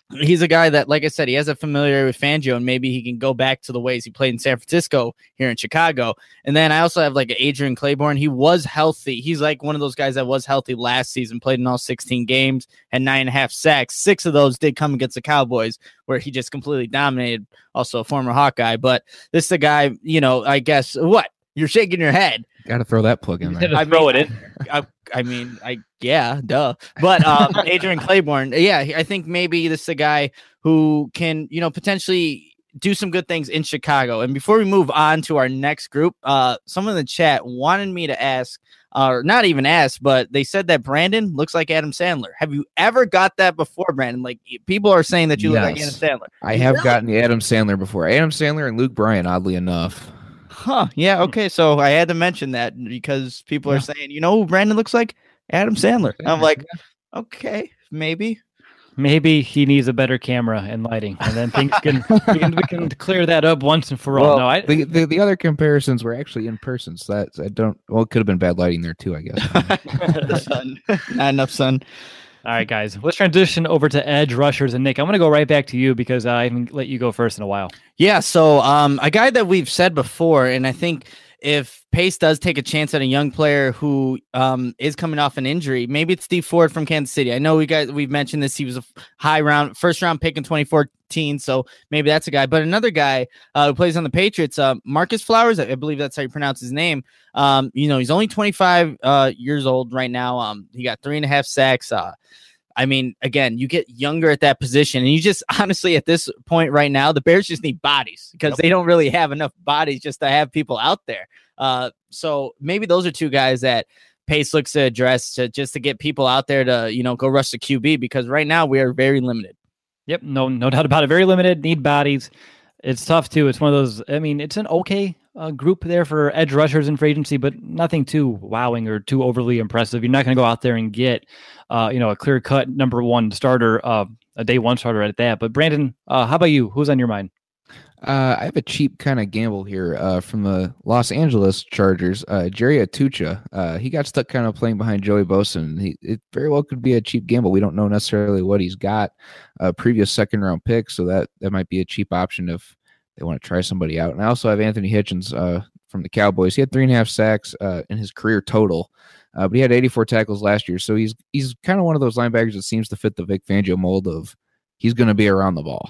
he's a guy that, like I said, he has a familiarity with Fangio, and maybe he can go back to the ways he played in San Francisco here in Chicago. And then I also have like Adrian Claiborne. He was healthy. He's like one of those guys that was healthy last season, played in all sixteen games, had nine and a half sacks. Six of those did come against the Cowboys, where he just completely dominated. Also a former Hawkeye, but this is a guy, you know, I guess what you're shaking your head. Got to throw that plug in there. I throw it in. I, I mean, I yeah, duh. But um, Adrian Claiborne, yeah, I think maybe this is a guy who can, you know, potentially do some good things in Chicago. And before we move on to our next group, uh, someone in the chat wanted me to ask, or uh, not even ask, but they said that Brandon looks like Adam Sandler. Have you ever got that before, Brandon? Like people are saying that you yes. look like Adam Sandler. I have really? gotten the Adam Sandler before. Adam Sandler and Luke Bryan, oddly enough. Huh. Yeah. Okay. So I had to mention that because people yeah. are saying, you know who Brandon looks like? Adam Sandler. I'm like, okay, maybe. Maybe he needs a better camera and lighting, and then things can we, can we can clear that up once and for all. Well, no, I, the, the the other comparisons were actually in person, so that I don't. Well, it could have been bad lighting there too, I guess. The sun, not enough sun. All right, guys, let's transition over to edge rushers. And Nick, I'm going to go right back to you because I haven't let you go first in a while. Yeah, so um, a guy that we've said before, and I think if Pace does take a chance at a young player who um, is coming off an injury, maybe it's Steve Ford from Kansas City. I know we guys we've mentioned this. He was a high round, first round pick in twenty fourteen, so maybe that's a guy. But another guy uh, who plays on the Patriots, uh, Marcus Flowers, I believe that's how you pronounce his name. Um, you know, he's only twenty-five uh, years old right now. Um, he got three and a half sacks. Uh, I mean, again, you get younger at that position, and you just honestly at this point right now, the Bears just need bodies because yep. they don't really have enough bodies just to have people out there. Uh, so maybe those are two guys that Pace looks to address to just to get people out there to, you know, go rush the Q B because right now we are very limited. Yep, no, no doubt about it. Very limited, need bodies. It's tough too. It's one of those. I mean, it's an okay uh, group there for edge rushers in free agency, but nothing too wowing or too overly impressive. You're not going to go out there and get, uh, you know, a clear cut number one starter, uh, a day one starter at that. But Brandon, uh, how about you? Who's on your mind? Uh, I have a cheap kind of gamble here uh, from the Los Angeles Chargers. Uh, Jerry Atucha, uh, he got stuck kind of playing behind Joey Bosa. And he, it very well could be a cheap gamble. We don't know necessarily what he's got. A previous second round pick, so that that might be a cheap option if they want to try somebody out. And I also have Anthony Hitchens uh, from the Cowboys. He had three and a half sacks uh, in his career total, uh, but he had eighty-four tackles last year. So he's he's kind of one of those linebackers that seems to fit the Vic Fangio mold of he's going to be around the ball.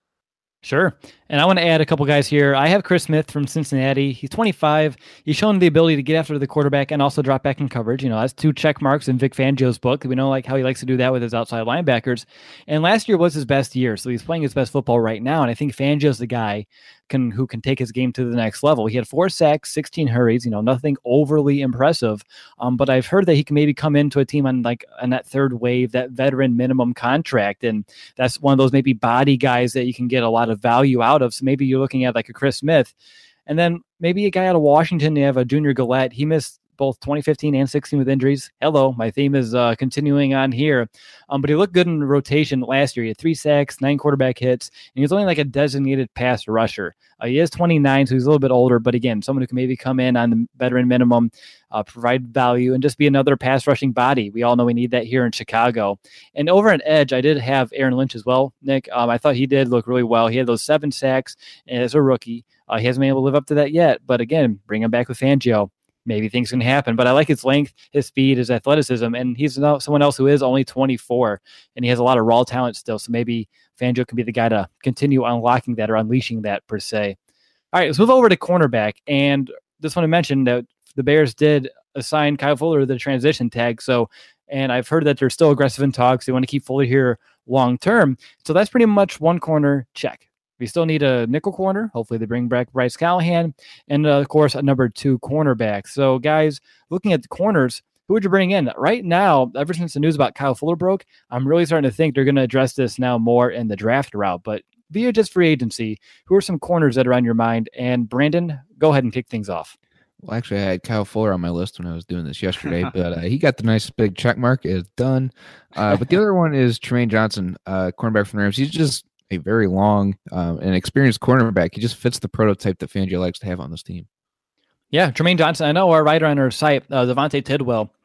Sure. And I want to add a couple guys here. I have Chris Smith from Cincinnati. He's twenty-five. He's shown the ability to get after the quarterback and also drop back in coverage. You know, that's two check marks in Vic Fangio's book. We know like how he likes to do that with his outside linebackers. And last year was his best year. So he's playing his best football right now. And I think Fangio's the guy can who can take his game to the next level. He had four sacks, sixteen hurries, you know, nothing overly impressive. Um, but I've heard that he can maybe come into a team on like on that third wave, that veteran minimum contract. And that's one of those maybe body guys that you can get a lot of value out of. So maybe you're looking at like a Chris Smith. And then maybe a guy out of Washington, you have a Junior Gillette. He missed both twenty fifteen and sixteen with injuries. Hello, my theme is uh, continuing on here. Um, but he looked good in the rotation last year. He had three sacks, nine quarterback hits, and he was only like a designated pass rusher. Uh, he is twenty-nine, so he's a little bit older, but again, someone who can maybe come in on the veteran minimum, uh, provide value, and just be another pass rushing body. We all know we need that here in Chicago. And over an edge, I did have Aaron Lynch as well, Nick. Um, I thought he did look really well. He had those seven sacks as a rookie. Uh, he hasn't been able to live up to that yet, but again, bring him back with Fangio. Maybe things can happen, but I like his length, his speed, his athleticism, and he's someone else who is only twenty-four, and he has a lot of raw talent still, so maybe Fangio can be the guy to continue unlocking that or unleashing that, per se. All right, let's move over to cornerback, and just want to mention that the Bears did assign Kyle Fuller the transition tag, so, and I've heard that they're still aggressive in talks. They want to keep Fuller here long-term, so that's pretty much one corner check. We still need a nickel corner. Hopefully they bring back Bryce Callahan. And, uh, of course, a number two cornerback. So, guys, looking at the corners, who would you bring in? Right now, ever since the news about Kyle Fuller broke, I'm really starting to think they're going to address this now more in the draft route. But via just free agency, who are some corners that are on your mind? And, Brandon, go ahead and kick things off. Well, actually, I had Kyle Fuller on my list when I was doing this yesterday, but uh, he got the nice big check mark. It's done. Uh, but the other one is Tremaine Johnson, uh, cornerback from the Rams. He's just a very long um, and experienced cornerback. He just fits the prototype that Fangio likes to have on this team. Yeah, Tremaine Johnson. I know our writer on our site, uh, Devontae Tidwell,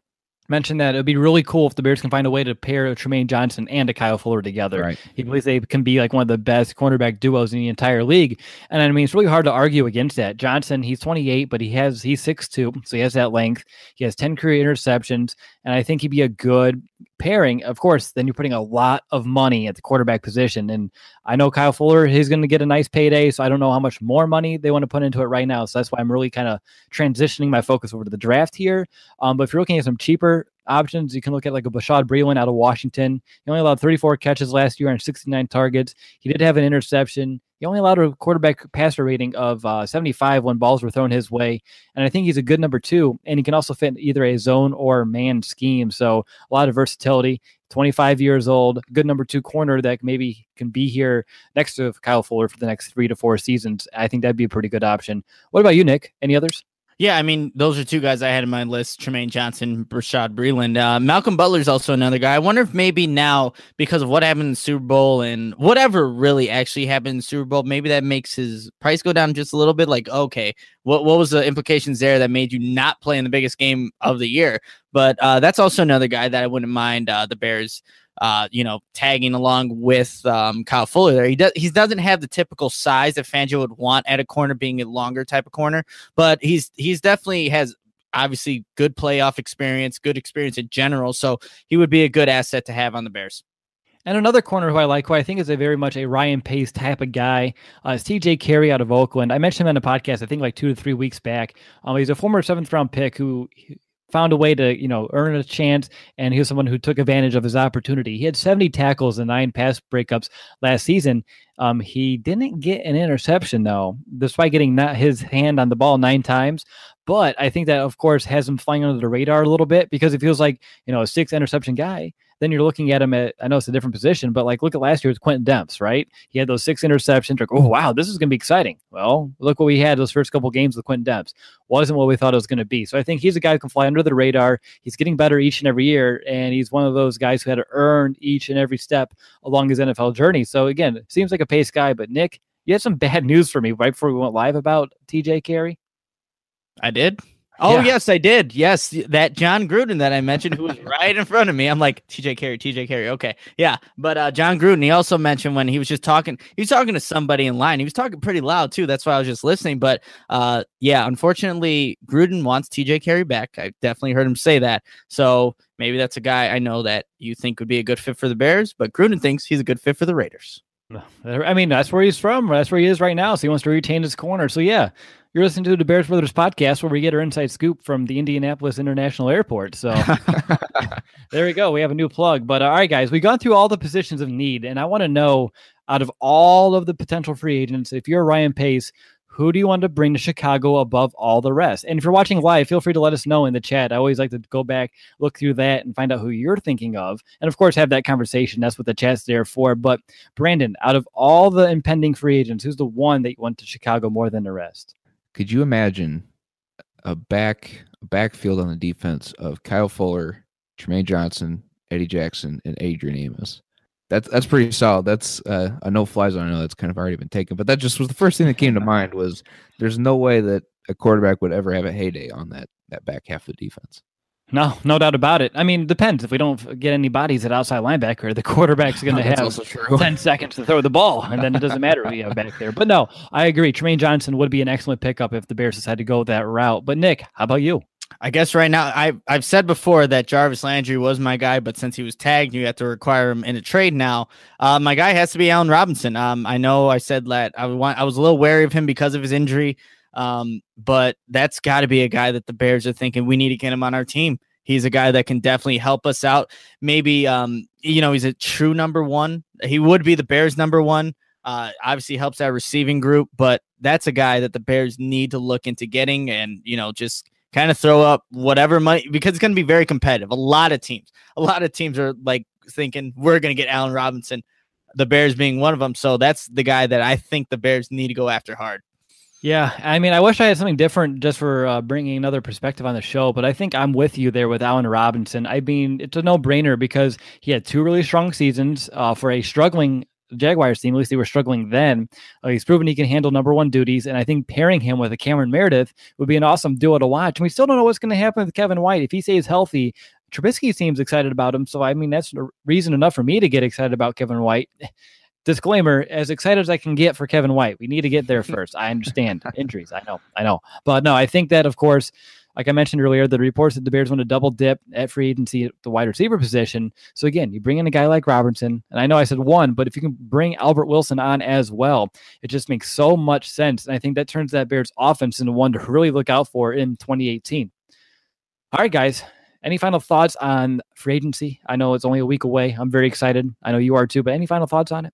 mentioned that it would be really cool if the Bears can find a way to pair a Tremaine Johnson and a Kyle Fuller together. Right. He believes they can be like one of the best cornerback duos in the entire league. And I mean, it's really hard to argue against that. Johnson, he's twenty-eight, but he has he's six two, so he has that length. He has ten career interceptions, and I think he'd be a good pairing. Of course, then you're putting a lot of money at the quarterback position. And I know Kyle Fuller, he's going to get a nice payday, so I don't know how much more money they want to put into it right now. So that's why I'm really kind of transitioning my focus over to the draft here. Um, but if you're looking at some cheaper options, you can look at like a Bashaud Breeland out of Washington. He only allowed thirty-four catches last year on sixty-nine targets. He did have an interception. He only allowed a quarterback passer rating of uh, seventy-five when balls were thrown his way. And I think he's a good number two, and he can also fit in either a zone or man scheme. So a lot of versatility. twenty-five years old, good number two corner that maybe can be here next to Kyle Fuller for the next three to four seasons. I think that'd be a pretty good option. What about you, Nick? Any others? Yeah, I mean, those are two guys I had in my list, Tremaine Johnson, Bashaud Breeland. Uh, Malcolm Butler's also another guy. I wonder if maybe now, because of what happened in the Super Bowl and whatever really actually happened in the Super Bowl, maybe that makes his price go down just a little bit. Like, okay, what, what was the implications there that made you not play in the biggest game of the year? But uh, that's also another guy that I wouldn't mind uh, the Bears Uh, you know, tagging along with um, Kyle Fuller there. He does he doesn't have the typical size that Fangio would want at a corner, being a longer type of corner, but he's he's definitely has obviously good playoff experience, good experience in general. So he would be a good asset to have on the Bears. And another corner who I like, who I think is a very much a Ryan Pace type of guy, uh, is T J Carey out of Oakland. I mentioned him on the podcast, I think like two to three weeks back. Um, he's a former seventh round pick who found a way to, you know, earn a chance, and he was someone who took advantage of his opportunity. He had seventy tackles and nine pass breakups last season. Um, he didn't get an interception, though, despite getting not his hand on the ball nine times. But I think that, of course, has him flying under the radar a little bit, because it feels like, you know, a six interception guy. Then you're looking at him at, I know it's a different position, but like look at last year with Quentin Demps, right? He had those six interceptions. Like, oh, wow, this is going to be exciting. Well, look what we had those first couple games with Quentin Demps. Wasn't what we thought it was going to be. So I think he's a guy who can fly under the radar. He's getting better each and every year, and he's one of those guys who had to earn each and every step along his N F L journey. So again, it seems like a Pace guy, but Nick, you had some bad news for me right before we went live about T J Carey. I did. Oh, Yeah. yes, I did. Yes, that John Gruden that I mentioned, who was right in front of me. I'm like, T J Carey, T J Carey. Okay. Yeah. But uh, John Gruden, he also mentioned when he was just talking, he was talking to somebody in line. He was talking pretty loud, too. That's why I was just listening. But uh, yeah, unfortunately, Gruden wants T J Carey back. I definitely heard him say that. So maybe that's a guy I know that you think would be a good fit for the Bears, but Gruden thinks he's a good fit for the Raiders. I mean, that's where he's from. That's where he is right now. So he wants to retain his corner. So yeah, you're listening to the Bears Brothers podcast, where we get our inside scoop from the Indianapolis International Airport. So there we go. We have a new plug. But uh, all right, guys, we've gone through all the positions of need, and I want to know, out of all of the potential free agents, if you're Ryan Pace, who do you want to bring to Chicago above all the rest? And if you're watching live, feel free to let us know in the chat. I always like to go back, look through that, and find out who you're thinking of. And of course, have that conversation. That's what the chat's there for. But Brandon, out of all the impending free agents, who's the one that you want to Chicago more than the rest? Could you imagine a back a backfield on the defense of Kyle Fuller, Tremaine Johnson, Eddie Jackson, and Adrian Amos? That's that's pretty solid. That's uh, a no-fly zone. I know that's kind of already been taken, but that just was the first thing that came to mind. Was there's no way that a quarterback would ever have a heyday on that that back half of the defense. No, no doubt about it. I mean, it depends. If we don't get any bodies at outside linebacker, the quarterback's going to have ten seconds to throw the ball, and then it doesn't matter who you have back there. But no, I agree. Tremaine Johnson would be an excellent pickup if the Bears decide to go that route. But Nick, how about you? I guess right now, I've, I've said before that Jarvis Landry was my guy, but since he was tagged, you have to require him in a trade now. Uh, my guy has to be Allen Robinson. Um, I know I said that I, want, I was a little wary of him because of his injury, um, but that's got to be a guy that the Bears are thinking we need to get him on our team. He's a guy that can definitely help us out. Maybe, um, you know, he's a true number one. He would be the Bears' number one. Uh, obviously helps our receiving group, but that's a guy that the Bears need to look into getting and, you know, just kind of throw up whatever money, because it's going to be very competitive. A lot of teams, a lot of teams are like thinking we're going to get Allen Robinson, the Bears being one of them. So that's the guy that I think the Bears need to go after hard. Yeah, I mean, I wish I had something different just for uh, bringing another perspective on the show, but I think I'm with you there with Allen Robinson. I mean, it's a no-brainer because he had two really strong seasons uh, for a struggling Jaguars team. At least they were struggling then. Uh, he's proven he can handle number one duties, and I think pairing him with a Cameron Meredith would be an awesome duo to watch. And we still don't know what's going to happen with Kevin White. If he stays healthy, Trubisky seems excited about him. So, I mean, that's reason enough for me to get excited about Kevin White. Disclaimer, as excited as I can get for Kevin White, we need to get there first. I understand injuries. I know, I know. But no, I think that, of course, like I mentioned earlier, the reports that the Bears want to double dip at free agency at the wide receiver position. So again, you bring in a guy like Robertson, and I know I said one, but if you can bring Albert Wilson on as well, it just makes so much sense. And I think that turns that Bears offense into one to really look out for in twenty eighteen. All right, guys. Any final thoughts on free agency? I know it's only a week away. I'm very excited. I know you are too, but any final thoughts on it?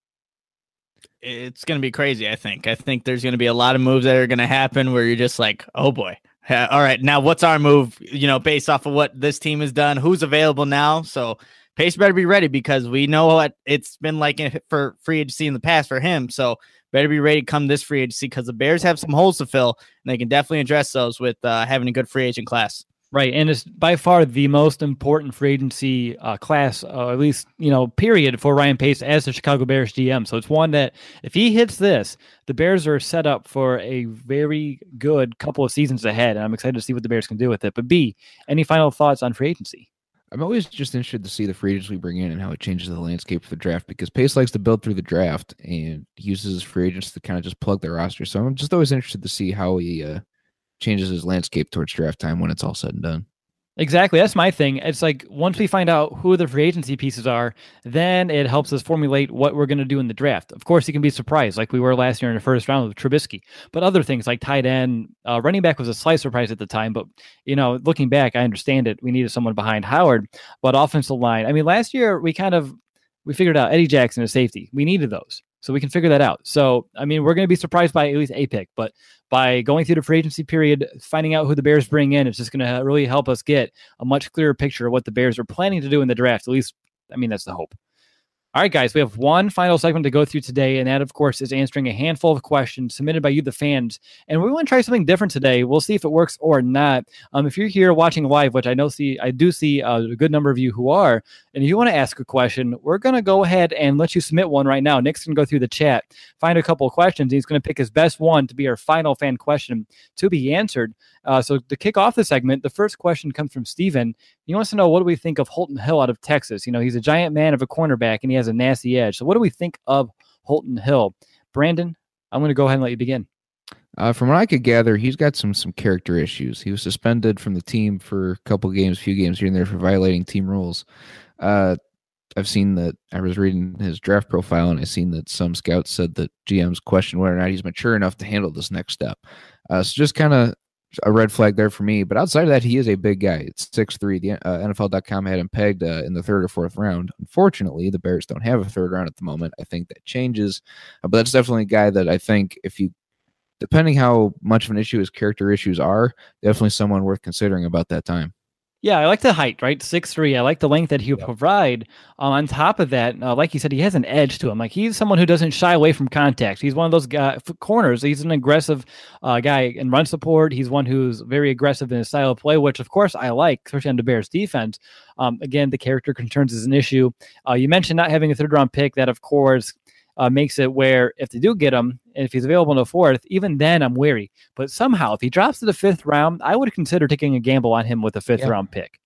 It's going to be crazy, I think. I think there's going to be a lot of moves that are going to happen where you're just like, oh boy. Uh, all right, now what's our move, you know, based off of what this team has done, who's available now? So Pace better be ready because we know what it's been like in, for free agency in the past for him. So better be ready to come this free agency because the Bears have some holes to fill, and they can definitely address those with uh, having a good free agent class. Right, and it's by far the most important free agency uh, class, uh, at least, you know, period, for Ryan Pace as the Chicago Bears G M. So it's one that if he hits this, the Bears are set up for a very good couple of seasons ahead, and I'm excited to see what the Bears can do with it. But B, any final thoughts on free agency? I'm always just interested to see the free agents we bring in and how it changes the landscape for the draft because Pace likes to build through the draft and uses his free agents to kind of just plug their roster. So I'm just always interested to see how he uh, changes his landscape towards draft time when it's all said and done. Exactly. That's my thing. It's like once we find out who the free agency pieces are, then it helps us formulate what we're going to do in the draft. Of course, you can be surprised like we were last year in the first round with Trubisky, but other things like tight end, uh, running back was a slight surprise at the time. But, you know, looking back, I understand it. We needed someone behind Howard, but offensive line. I mean, last year we kind of, we figured out Eddie Jackson as safety. We needed those. So we can figure that out. So, I mean, we're going to be surprised by at least a pick, but by going through the free agency period, finding out who the Bears bring in, it's just going to really help us get a much clearer picture of what the Bears are planning to do in the draft. At least, I mean, that's the hope. All right, guys, we have one final segment to go through today, and that, of course, is answering a handful of questions submitted by you, the fans. And we want to try something different today. We'll see if it works or not. Um, if you're here watching live, which I know see, I do see uh, a good number of you who are, and if you want to ask a question, we're going to go ahead and let you submit one right now. Nick's going to go through the chat, find a couple of questions, and he's going to pick his best one to be our final fan question to be answered. Uh, so to kick off the segment, the first question comes from Steven. He wants to know, what do we think of Holton Hill out of Texas? You know, he's a giant man of a cornerback, and he has a nasty edge. So what do we think of Holton Hill? Brandon, I'm going to go ahead and let you begin. Uh, from what I could gather, he's got some some character issues. He was suspended from the team for a couple games, few games here and there for violating team rules. Uh, I've seen that. I was reading his draft profile, and I've seen that some scouts said that G Ms question whether or not he's mature enough to handle this next step. Uh, so just kind of a red flag there for me. But outside of that, he is a big guy. It's six three. The uh, N F L dot com had him pegged uh, in the third or fourth round. Unfortunately, the Bears don't have a third round at the moment. I think that changes. Uh, but that's definitely a guy that I think if you, depending how much of an issue his character issues are, definitely someone worth considering about that time. Yeah, I like the height, right? six three. I like the length that he'll yep. provide. Um, on top of that, uh, like you said, he has an edge to him. Like he's someone who doesn't shy away from contact. He's one of those guy, corners. He's an aggressive uh, guy in run support. He's one who's very aggressive in his style of play, which of course I like, especially on the Bears defense. Um, again, the character concerns is an issue. Uh, you mentioned not having a third round pick. That of course Uh, makes it where if they do get him, and if he's available in the fourth, even then I'm wary. But somehow, if he drops to the fifth round, I would consider taking a gamble on him with a fifth yeah. round pick.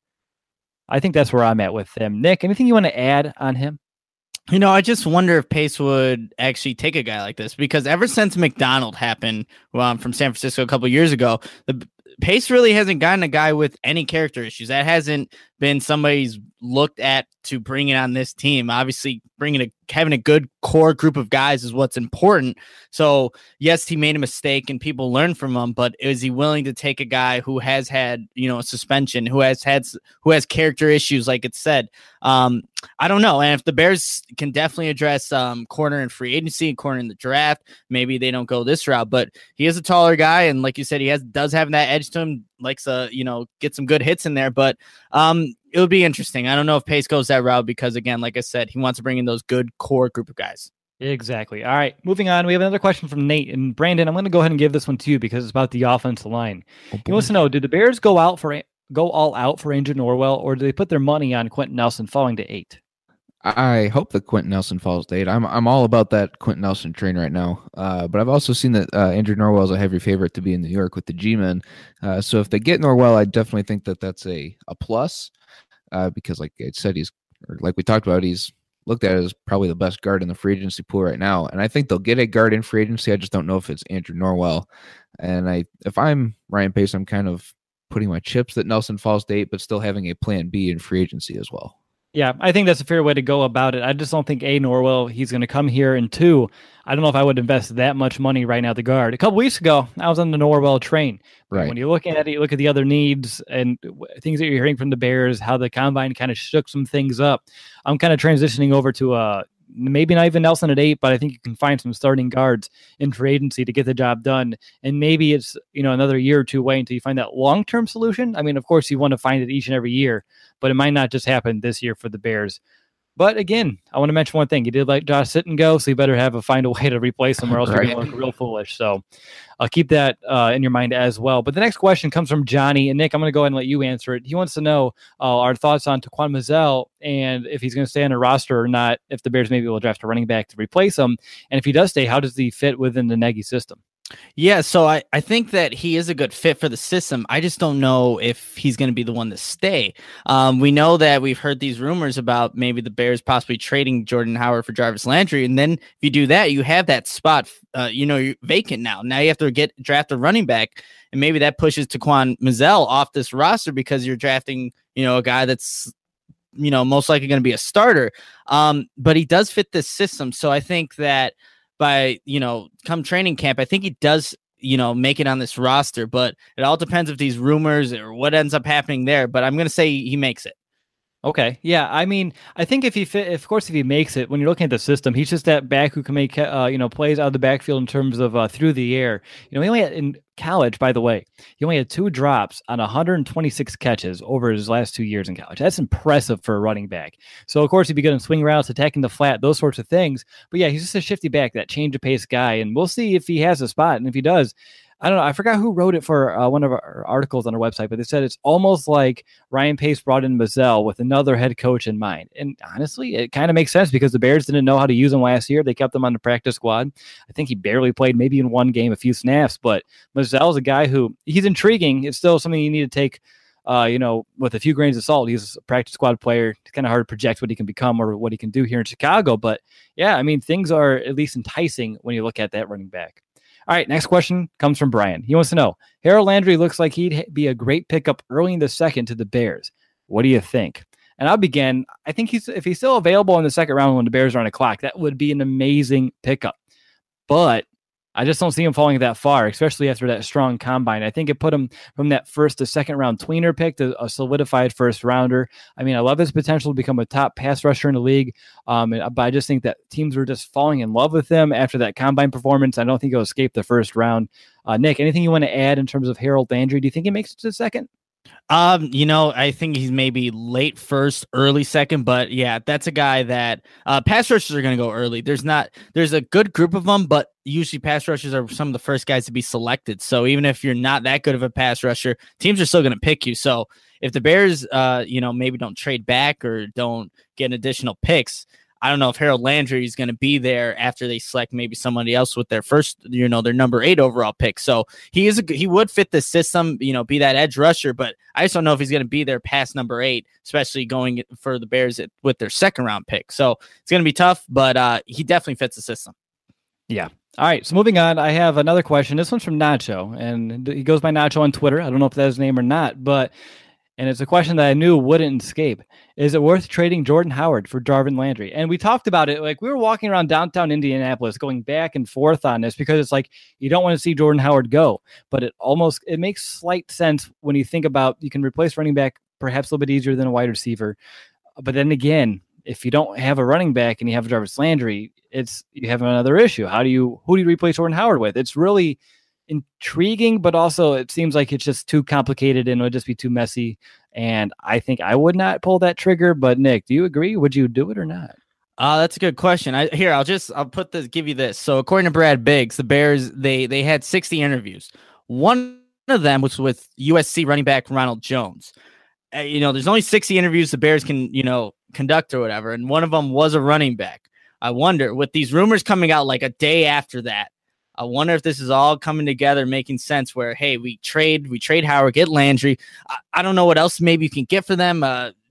I think that's where I'm at with him. Nick, anything you want to add on him? You know, I just wonder if Pace would actually take a guy like this, because ever since McDonald happened um, from San Francisco a couple of years ago, the Pace really hasn't gotten a guy with any character issues. That hasn't been somebody's looked at to bring it on this team. Obviously, bringing a having a good core group of guys is what's important. So, yes, he made a mistake and people learn from him, but is he willing to take a guy who has had, you know, a suspension, who has had, who has character issues, like it said? Um, I don't know. And if the Bears can definitely address um, corner and free agency, corner in the draft, maybe they don't go this route. But he is a taller guy, and like you said, he has does have that edge to him. Likes to, you know, get some good hits in there. But um, it would be interesting. I don't know if Pace goes that route because, again, like I said, he wants to bring in those good core group of guys. Exactly. All right, moving on. We have another question from Nate. And Brandon, I'm going to go ahead and give this one to you because it's about the offensive line. Oh, he wants to know, did the Bears go out for go all out for Andrew Norwell, or do they put their money on Quentin Nelson falling to eight? I hope that Quentin Nelson falls to eight. I'm I'm all about that Quentin Nelson train right now. Uh, but I've also seen that uh, Andrew Norwell is a heavy favorite to be in New York with the G-men. Uh, so if they get Norwell, I definitely think that that's a, a plus. uh, because, like I said, he's or like we talked about, he's looked at as probably the best guard in the free agency pool right now. And I think they'll get a guard in free agency. I just don't know if it's Andrew Norwell. And I, if I'm Ryan Pace, I'm kind of putting my chips that Nelson Falls date, but still having a plan B in free agency as well. Yeah, I think that's a fair way to go about it. I just don't think A, Norwell, he's going to come here, and two, I don't know if I would invest that much money right now at the guard. A couple weeks ago, I was on the Norwell train. Right. When you look at it, you look at the other needs and things that you're hearing from the Bears, how the combine kind of shook some things up. I'm kind of transitioning over to uh, maybe not even Nelson at eight, but I think you can find some starting guards in free agency to get the job done. And maybe it's, you know, another year or two away until you find that long-term solution. I mean, of course, you want to find it each and every year, but it might not just happen this year for the Bears. But again, I want to mention one thing. You did let Josh Sitton go, so you better have a find a way to replace him, or else right. You're going to look real foolish. So I'll keep that uh, in your mind as well. But the next question comes from Johnny. And Nick, I'm going to go ahead and let you answer it. He wants to know uh, our thoughts on Taquan Mizzell and if he's going to stay on a roster or not, if the Bears maybe will draft a running back to replace him. And if he does stay, how does he fit within the Nagy system? Yeah, so I, I think that he is a good fit for the system. I just don't know if he's going to be the one to stay. Um, we know that we've heard these rumors about maybe the Bears possibly trading Jordan Howard for Jarvis Landry. And then if you do that, you have that spot, uh, you know, you're vacant now. Now you have to get draft a running back. And maybe that pushes Taquan Mizzell off this roster because you're drafting, you know, a guy that's, you know, most likely going to be a starter. Um, but he does fit this system. So I think that by, you know, come training camp, I think he does, you know, make it on this roster, but it all depends if these rumors or what ends up happening there. But I'm going to say he makes it. Okay. Yeah. I mean, I think if he fit, of course, if he makes it, when you're looking at the system, he's just that back who can make, uh, you know, plays out of the backfield in terms of uh, through the air. You know, he only had in college, by the way, he only had two drops on one hundred twenty-six catches over his last two years in college. That's impressive for a running back. So, of course, he'd be good in swing routes, attacking the flat, those sorts of things. But yeah, he's just a shifty back, that change of pace guy. And we'll see if he has a spot. And if he does, I don't know. I forgot who wrote it for uh, one of our articles on our website, but they said it's almost like Ryan Pace brought in Mizzell with another head coach in mind. And honestly, it kind of makes sense because the Bears didn't know how to use him last year. They kept him on the practice squad. I think he barely played, maybe in one game, a few snaps, but Mizzell's a guy who he's intriguing. It's still something you need to take, uh, you know, with a few grains of salt. He's a practice squad player. It's kind of hard to project what he can become or what he can do here in Chicago. But yeah, I mean, things are at least enticing when you look at that running back. All right, next question comes from Brian. He wants to know, Harold Landry looks like he'd be a great pickup early in the second to the Bears. What do you think? And I'll begin. I think he's if he's still available in the second round when the Bears are on a clock, that would be an amazing pickup. But I just don't see him falling that far, especially after that strong combine. I think it put him from that first to second round tweener pick to a solidified first rounder. I mean, I love his potential to become a top pass rusher in the league. Um, but I just think that teams were just falling in love with him after that combine performance. I don't think he'll escape the first round. Uh, Nick, anything you want to add in terms of Harold Landry? Do you think he makes it to the second? Um, you know, I think he's maybe late first, early second, but yeah, that's a guy that uh, pass rushers are going to go early. There's not, there's a good group of them, but usually pass rushers are some of the first guys to be selected. So even if you're not that good of a pass rusher, teams are still going to pick you. So if the Bears, uh, you know, maybe don't trade back or don't get additional picks, I don't know if Harold Landry is going to be there after they select maybe somebody else with their first, you know, their number eight overall pick. So he is, a, he would fit the system, you know, be that edge rusher, but I just don't know if he's going to be there past number eight, especially going for the Bears at, with their second round pick. So it's going to be tough, but uh, he definitely fits the system. Yeah. All right. So moving on, I have another question. This one's from Nacho, and he goes by Nacho on Twitter. I don't know if that's his name or not, but and it's a question that I knew wouldn't escape. Is it worth trading Jordan Howard for Jarvis Landry? And we talked about it. Like we were walking around downtown Indianapolis going back and forth on this because it's like you don't want to see Jordan Howard go. But it almost it makes slight sense when you think about you can replace running back perhaps a little bit easier than a wide receiver. But then again, if you don't have a running back and you have Jarvis Landry, it's you have another issue. How do you who do you replace Jordan Howard with? It's really intriguing, but also it seems like it's just too complicated and it would just be too messy. And I think I would not pull that trigger. But Nick, do you agree? Would you do it or not? Uh, that's a good question. I here I'll just I'll put this give you this. So according to Brad Biggs, the Bears they they had sixty interviews. One of them was with U S C running back Ronald Jones. Uh, you know, there's only sixty interviews the Bears can you know conduct or whatever, and one of them was a running back. I wonder with these rumors coming out like a day after that. I wonder if this is all coming together, making sense where, hey, we trade, we trade Howard, get Landry. I, I don't know what else maybe you can get for them. Uh,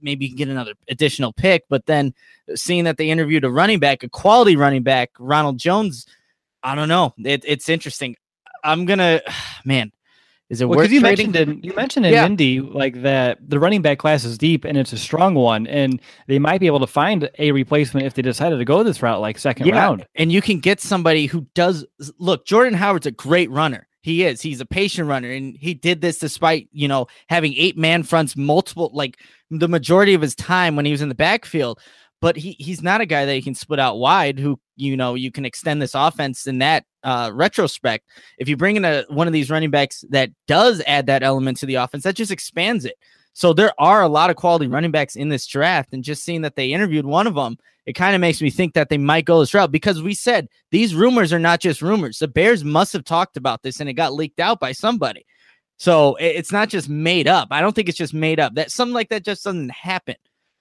maybe you can get another additional pick. But then seeing that they interviewed a running back, a quality running back, Ronald Jones, I don't know. It, it's interesting. I'm gonna, man. Is it well, worth you trading? mentioned in, you mentioned in Yeah. Indy like that the running back class is deep and it's a strong one, and they might be able to find a replacement if they decided to go this route, like second Yeah, round. and you can get somebody who does look. Jordan Howard's a great runner. He is. He's a patient runner, and he did this despite, you know, having eight man fronts, multiple, like the majority of his time when he was in the backfield. But he he's not a guy that you can split out wide. Who, you know, you can extend this offense in that uh, retrospect. If you bring in a one of these running backs that does add that element to the offense, that just expands it. So there are a lot of quality running backs in this draft, and just seeing that they interviewed one of them, it kind of makes me think that they might go this route, because we said these rumors are not just rumors. The Bears must have talked about this and it got leaked out by somebody. So it, it's not just made up. I don't think it's just made up. That something like that just doesn't happen.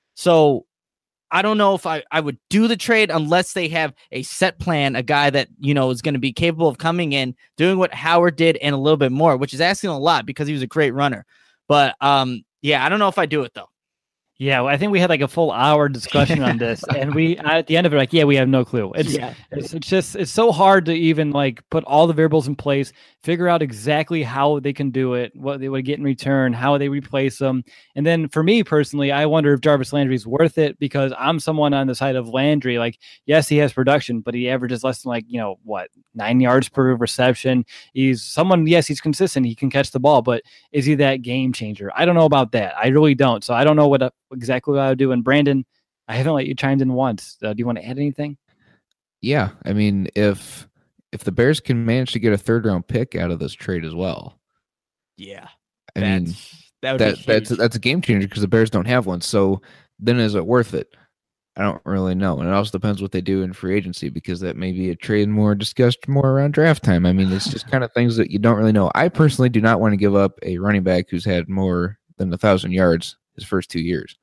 So I don't know if I, I would do the trade unless they have a set plan, a guy that, you know, is going to be capable of coming in, doing what Howard did and a little bit more, which is asking a lot because he was a great runner. But um, yeah, I don't know if I do it though. Yeah, well, I think we had like a full hour discussion on this, and we at the end of it, like, yeah, we have no clue. It's, Yeah. it's it's just it's so hard to even like put all the variables in place, figure out exactly how they can do it, what they would get in return, how they replace them, and then for me personally, I wonder if Jarvis Landry is worth it, because I'm someone on the side of Landry. Like, yes, he has production, but he averages less than like you know what nine yards per reception. He's someone, yes, he's consistent, he can catch the ball, but is he that game changer? I don't know about that. I really don't. So I don't know what. A, exactly what I would do. And Brandon, I haven't let you chime in once. Uh, do you want to add anything? Yeah, I mean, if if the Bears can manage to get a third round pick out of this trade as well, Yeah. I mean, that would that be that's huge. that's a game changer because the Bears don't have one. So then, is it worth it? I don't really know, and it also depends what they do in free agency, because that may be a trade more discussed more around draft time. I mean, it's just kind of things that you don't really know. I personally do not want to give up a running back who's had more than a thousand yards his first two years.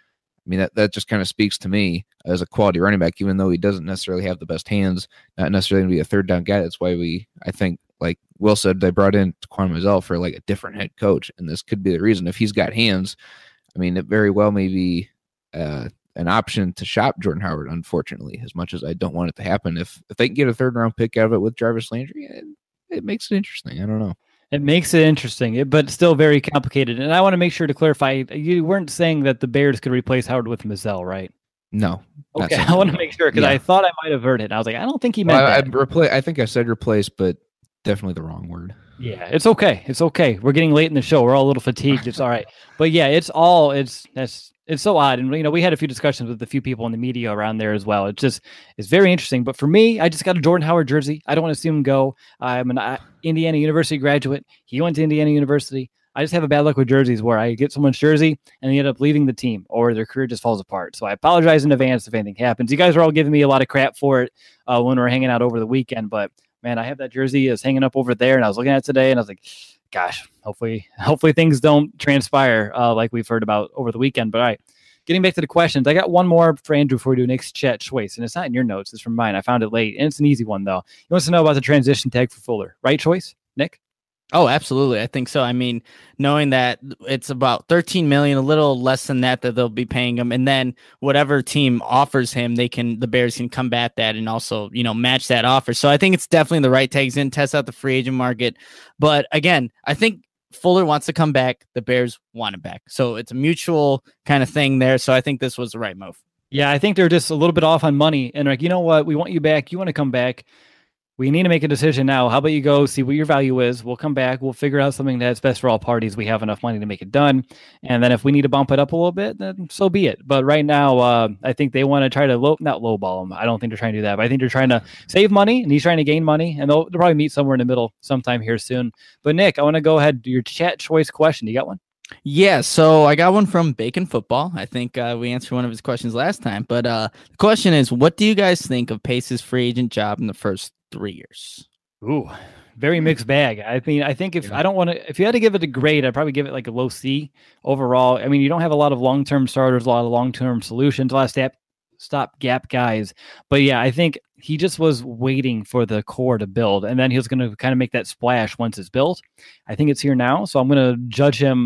I mean, that, that just kind of speaks to me as a quality running back, even though he doesn't necessarily have the best hands, not necessarily going to be a third down guy. That's why we, I think, like Will said, they brought in Quan Mazel for like a different head coach. And this could be the reason. If he's got hands, I mean, it very well may be uh, an option to shop Jordan Howard, unfortunately, as much as I don't want it to happen. If if they can get a third round pick out of it with Jarvis Landry, it, it makes it interesting. I don't know. It makes it interesting, but still very complicated. And I want to make sure to clarify, you weren't saying that the Bears could replace Howard with Mazel, right? No. Okay, I want to make sure, because Yeah. I thought I might have heard it. And I was like, I don't think he meant Well, I, I, that. repla- I think I said replace, but definitely the wrong word. Yeah, it's okay. It's okay. We're getting late in the show. We're all a little fatigued. It's all right. But yeah, it's all it's that's it's so odd. And you know, we had a few discussions with a few people in the media around there as well. It's just it's very interesting. But for me, I just got a Jordan Howard jersey. I don't want to see him go. I'm an uh, Indiana University graduate. He went to Indiana University. I just have a bad luck with jerseys where I get someone's jersey and they end up leaving the team or their career just falls apart. So I apologize in advance if anything happens. You guys are all giving me a lot of crap for it uh, when we're hanging out over the weekend, but man, I have that jersey is hanging up over there, and I was looking at it today, and I was like, gosh, hopefully, hopefully things don't transpire uh, like we've heard about over the weekend. But all right, getting back to the questions, I got one more for Andrew before we do Nick's chat choice, and it's not in your notes, it's from mine. I found it late, and it's an easy one though. He wants to know about the transition tag for Fuller, right choice, Nick? Oh, absolutely. I think so. I mean, knowing that it's about thirteen million, a little less than that, that they'll be paying him. And then whatever team offers him, they can, the Bears can combat that and also, you know, match that offer. So I think it's definitely the right tags in, test out the free agent market. But again, I think Fuller wants to come back. The Bears want him back. So it's a mutual kind of thing there. So I think this was the right move. Yeah, I think they're just a little bit off on money. And like, you know what? We want you back. You want to come back. We need to make a decision now. How about you go see what your value is? We'll come back. We'll figure out something that's best for all parties. We have enough money to make it done. And then if we need to bump it up a little bit, then so be it. But right now, uh, I think they want to try to low, not lowball him. I don't think they're trying to do that. But I think they're trying to save money, and he's trying to gain money. And they'll, they'll probably meet somewhere in the middle sometime here soon. But Nick, I want to go ahead to your chat choice question. You got one? Yeah, so I got one from Bacon Football. I think uh, we answered one of his questions last time. But uh, the question is, what do you guys think of Pace's free agent job in the first three years? Ooh, very mixed bag. I mean, I think if yeah. I don't want to, if you had to give it a grade, I'd probably give it like a low C overall. I mean, you don't have a lot of long-term starters, a lot of long-term solutions, a lot of step, stop gap guys. But yeah, I think he just was waiting for the core to build, and then he was going to kind of make that splash once it's built. I think it's here now. So I'm going to judge him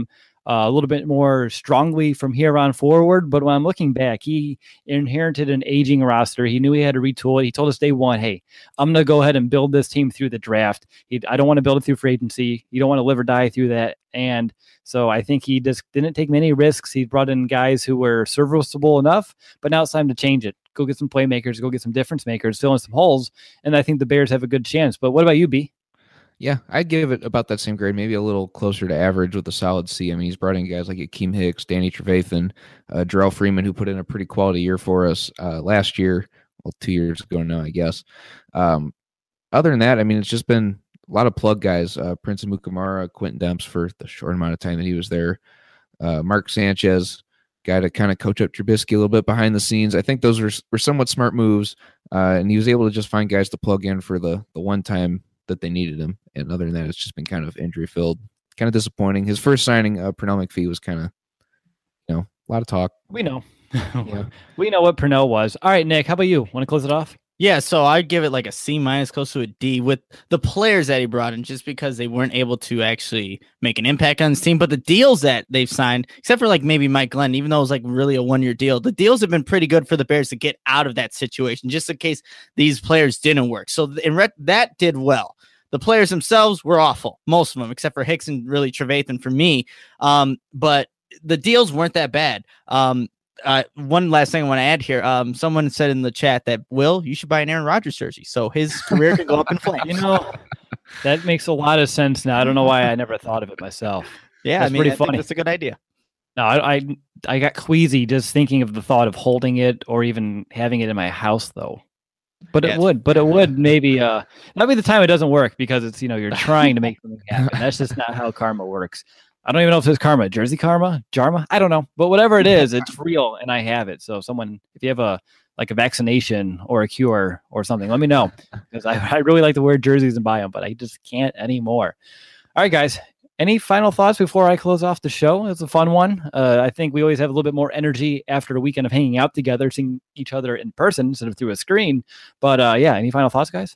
uh, a little bit more strongly from here on forward. But when I'm looking back, he inherited an aging roster. He knew he had to retool it. He told us day one, hey, I'm going to go ahead and build this team through the draft. He, I don't want to build it through free agency. You don't want to live or die through that. And so I think he just didn't take many risks. He brought in guys who were serviceable enough, but now it's time to change it. Go get some playmakers, go get some difference makers, fill in some holes. And I think the Bears have a good chance. But what about you, B? Yeah, I'd give it about that same grade, maybe a little closer to average with a solid C. I mean, he's brought in guys like Akeem Hicks, Danny Trevathan, uh, Jarrell Freeman, who put in a pretty quality year for us uh, last year. Well, two years ago now, I guess. Um, other than that, I mean, it's just been a lot of plug guys. Uh, Prince Amukamara, Quentin Demps for the short amount of time that he was there. Uh, Mark Sanchez, guy to kind of coach up Trubisky a little bit behind the scenes. I think those were, were somewhat smart moves, uh, and he was able to just find guys to plug in for the the one time that they needed him. And other than that, it's just been kind of injury filled, kind of disappointing. His first signing, uh, Pernell McPhee, was kind of, you know, a lot of talk. We know. Yeah. We know what Pernell was. All right, Nick, how about you? Want to close it off? Yeah, so I'd give it like a C minus, close to a D with the players that he brought in, just because they weren't able to actually make an impact on his team. But the deals that they've signed, except for like maybe Mike Glenn, even though it was like really a one-year deal, the deals have been pretty good for the Bears to get out of that situation, just in case these players didn't work. So in re- that did well. The players themselves were awful, most of them, except for Hicks and really Trevathan for me. Um, but the deals weren't that bad. Um, Uh, one last thing I want to add here. Um, someone said in the chat that, Will, you should buy an Aaron Rodgers jersey, so his career can go up in flames. You know, that makes a lot of sense now. I don't know why I never thought of it myself. Yeah, that's I mean, pretty I funny. think that's a good idea. No, I, I I got queasy just thinking of the thought of holding it or even having it in my house, though. But Yeah, it would, but it would maybe uh, that'd be the time it doesn't work because it's, you know, you're trying to make something happen. That's just not how karma works. I don't even know if it's karma, Jersey karma, Jarma. I don't know, but whatever it is, it's real, and I have it. So, someone, if you have a like a vaccination or a cure or something, let me know, because I, I really like to wear jerseys and buy them, but I just can't anymore. All right, guys. Any final thoughts before I close off the show? It's a fun one. Uh, I think we always have a little bit more energy after a weekend of hanging out together, seeing each other in person instead of through a screen. But uh, yeah, any final thoughts, guys?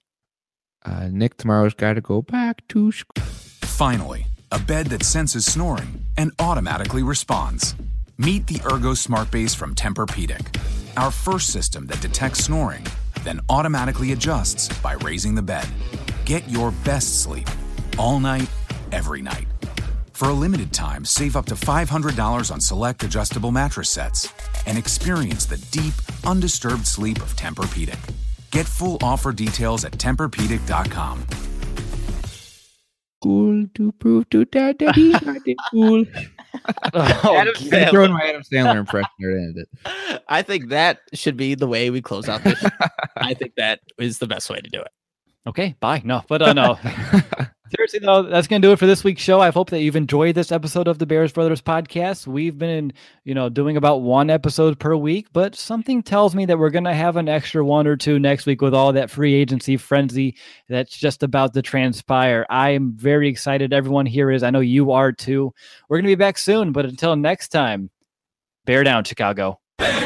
Uh, Nick tomorrow's got to go back to school. Finally, a bed that senses snoring and automatically responds. Meet the Ergo Smart Base from Tempur-Pedic, our first system that detects snoring, then automatically adjusts by raising the bed. Get your best sleep all night, every night. For a limited time, save up to five hundred dollars on select adjustable mattress sets and experience the deep, undisturbed sleep of Tempur-Pedic. Get full offer details at Tempur Pedic dot com. Cool to prove to dad that he's not that cool. Oh, Adam Sandler. Throwing my Adam Sandler impression there to end it. I think that should be the way we close out this. I think that is the best way to do it. Okay, bye. No, but uh, no. Seriously, though, that's going to do it for this week's show. I hope that you've enjoyed this episode of the Bears Brothers podcast. We've been, you know, doing about one episode per week, but something tells me that we're going to have an extra one or two next week with all that free agency frenzy that's just about to transpire. I am very excited. Everyone here is. I know you are too. We're going to be back soon, but until next time, bear down, Chicago.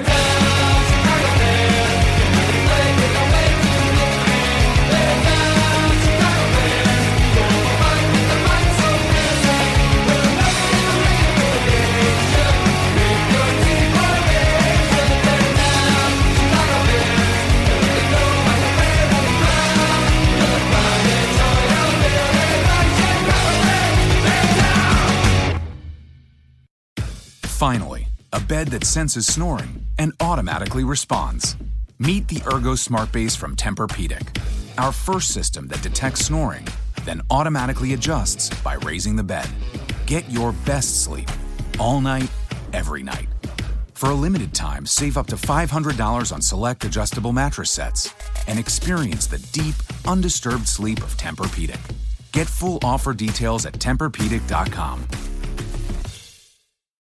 Finally, a bed that senses snoring and automatically responds. Meet the Ergo Smart Base from Tempur-Pedic, our first system that detects snoring, then automatically adjusts by raising the bed. Get your best sleep all night, every night. For a limited time, save up to five hundred dollars on select adjustable mattress sets and experience the deep, undisturbed sleep of Tempur-Pedic. Get full offer details at Tempur Pedic dot com.